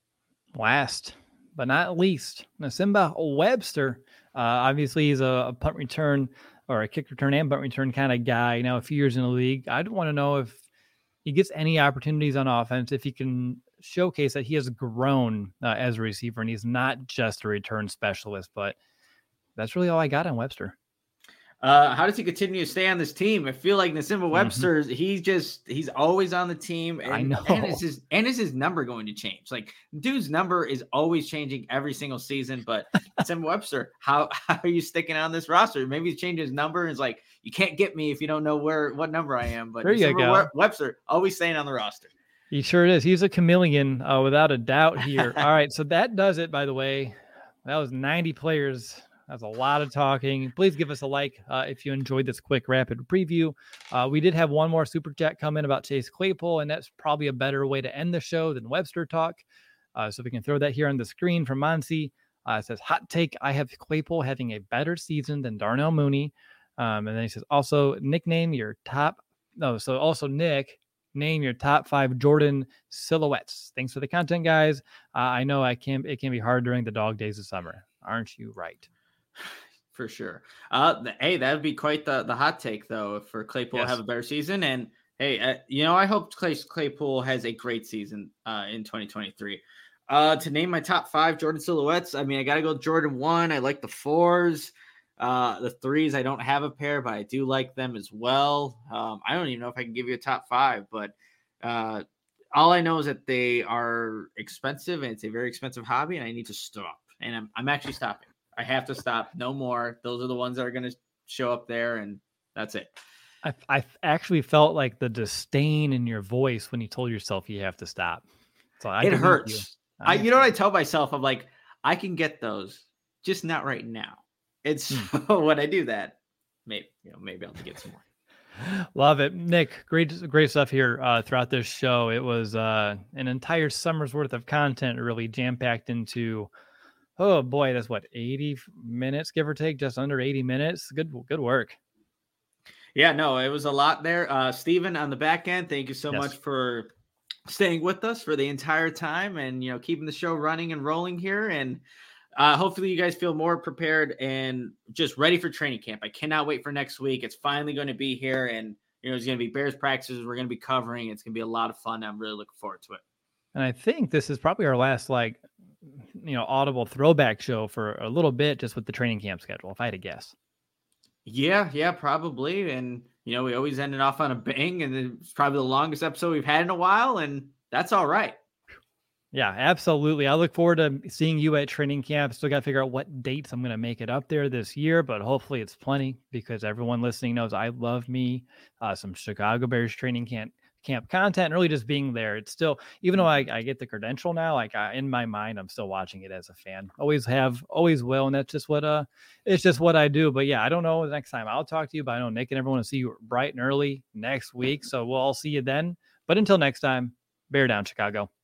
Last but not least, Nsimba Webster. Uh, obviously, he's a, a punt return or a kick return and punt return kind of guy. Now, a few years in the league, I'd want to know if he gets any opportunities on offense, if he can showcase that he has grown uh, as a receiver, and he's not just a return specialist. But that's really all I got on Webster. Uh, how does he continue to stay on this team? I feel like Nsimba Webster, Mm-hmm. he's just, he's always on the team. And, I know. And is, his, and is his number going to change? Like, dude's number is always changing every single season. But Nsimba Webster, how, how are you sticking on this roster? Maybe he's changed his number. And it's like, you can't get me if you don't know where, what number I am. But there you go. We- Webster, always staying on the roster. He sure is. He's a chameleon uh, without a doubt here. All right. So that does it, by the way. That was ninety players. That's a lot of talking. Please give us a like uh, if you enjoyed this quick rapid preview. Uh, we did have one more super chat come in about Chase Claypool, and that's probably a better way to end the show than Webster talk. Uh, so we can throw that here on the screen from Monsi. Uh, it says, hot take, I have Claypool having a better season than Darnell Mooney. Um, and then he says, also, nickname your top. No, so also, Nick, name your top five Jordan silhouettes. Thanks for the content, guys. Uh, I know I can. It can be hard during the dog days of summer. Aren't you right? For sure. Uh, the, hey, that would be quite the, the hot take, though, for Claypool Yes. to have a better season. And hey, uh, you know, I hope Clay, Claypool has a great season uh, in twenty twenty-three. Uh, to name my top five Jordan silhouettes, I mean, I got to go Jordan one. I like the fours. Uh, the threes, I don't have a pair, but I do like them as well. Um, I don't even know if I can give you a top five, but uh, all I know is that they are expensive, and it's a very expensive hobby, and I need to stop. And I'm, I'm actually stopping. I have to stop. No more. Those are the ones that are going to show up there, and that's it. I, I actually felt like the disdain in your voice when you told yourself you have to stop. So I it believe hurts. You. I, you know what I tell myself? I'm like, I can get those, just not right now. It's Hmm. when I do that, maybe you know, maybe I'll get some more. Love it. Nick, great, great stuff here uh, throughout this show. It was uh, an entire summer's worth of content really jam-packed into, oh boy, that's what, eighty minutes, give or take, just under eighty minutes. Good, good work. Yeah, no, it was a lot there. Uh, Steven on the back end, thank you so Yes. much for staying with us for the entire time and, you know, keeping the show running and rolling here. And uh, hopefully you guys feel more prepared and just ready for training camp. I cannot wait for next week. It's finally going to be here, and, you know, it's going to be Bears practices. We're going to be covering. It's going to be a lot of fun. I'm really looking forward to it. And I think this is probably our last, like, you know, audible throwback show for a little bit, just with the training camp schedule, if I had to guess. Yeah, yeah, probably. And, you know, we always ended off on a bang, and it's probably the longest episode we've had in a while, and that's all right. Yeah, absolutely. I look forward to seeing you at training camp. Still got to figure out what dates I'm going to make it up there this year, but hopefully it's plenty, because everyone listening knows I love me uh, some Chicago Bears training camp camp content, and really just being there. It's still, even though I, I get the credential now, like I, in my mind, I'm still watching it as a fan. Always have, always will, and that's just what uh, it's just what I do. But yeah, I don't know the next time I'll talk to you, but I know Nick and everyone will see you bright and early next week, so we'll all see you then. But until next time, bear down, Chicago.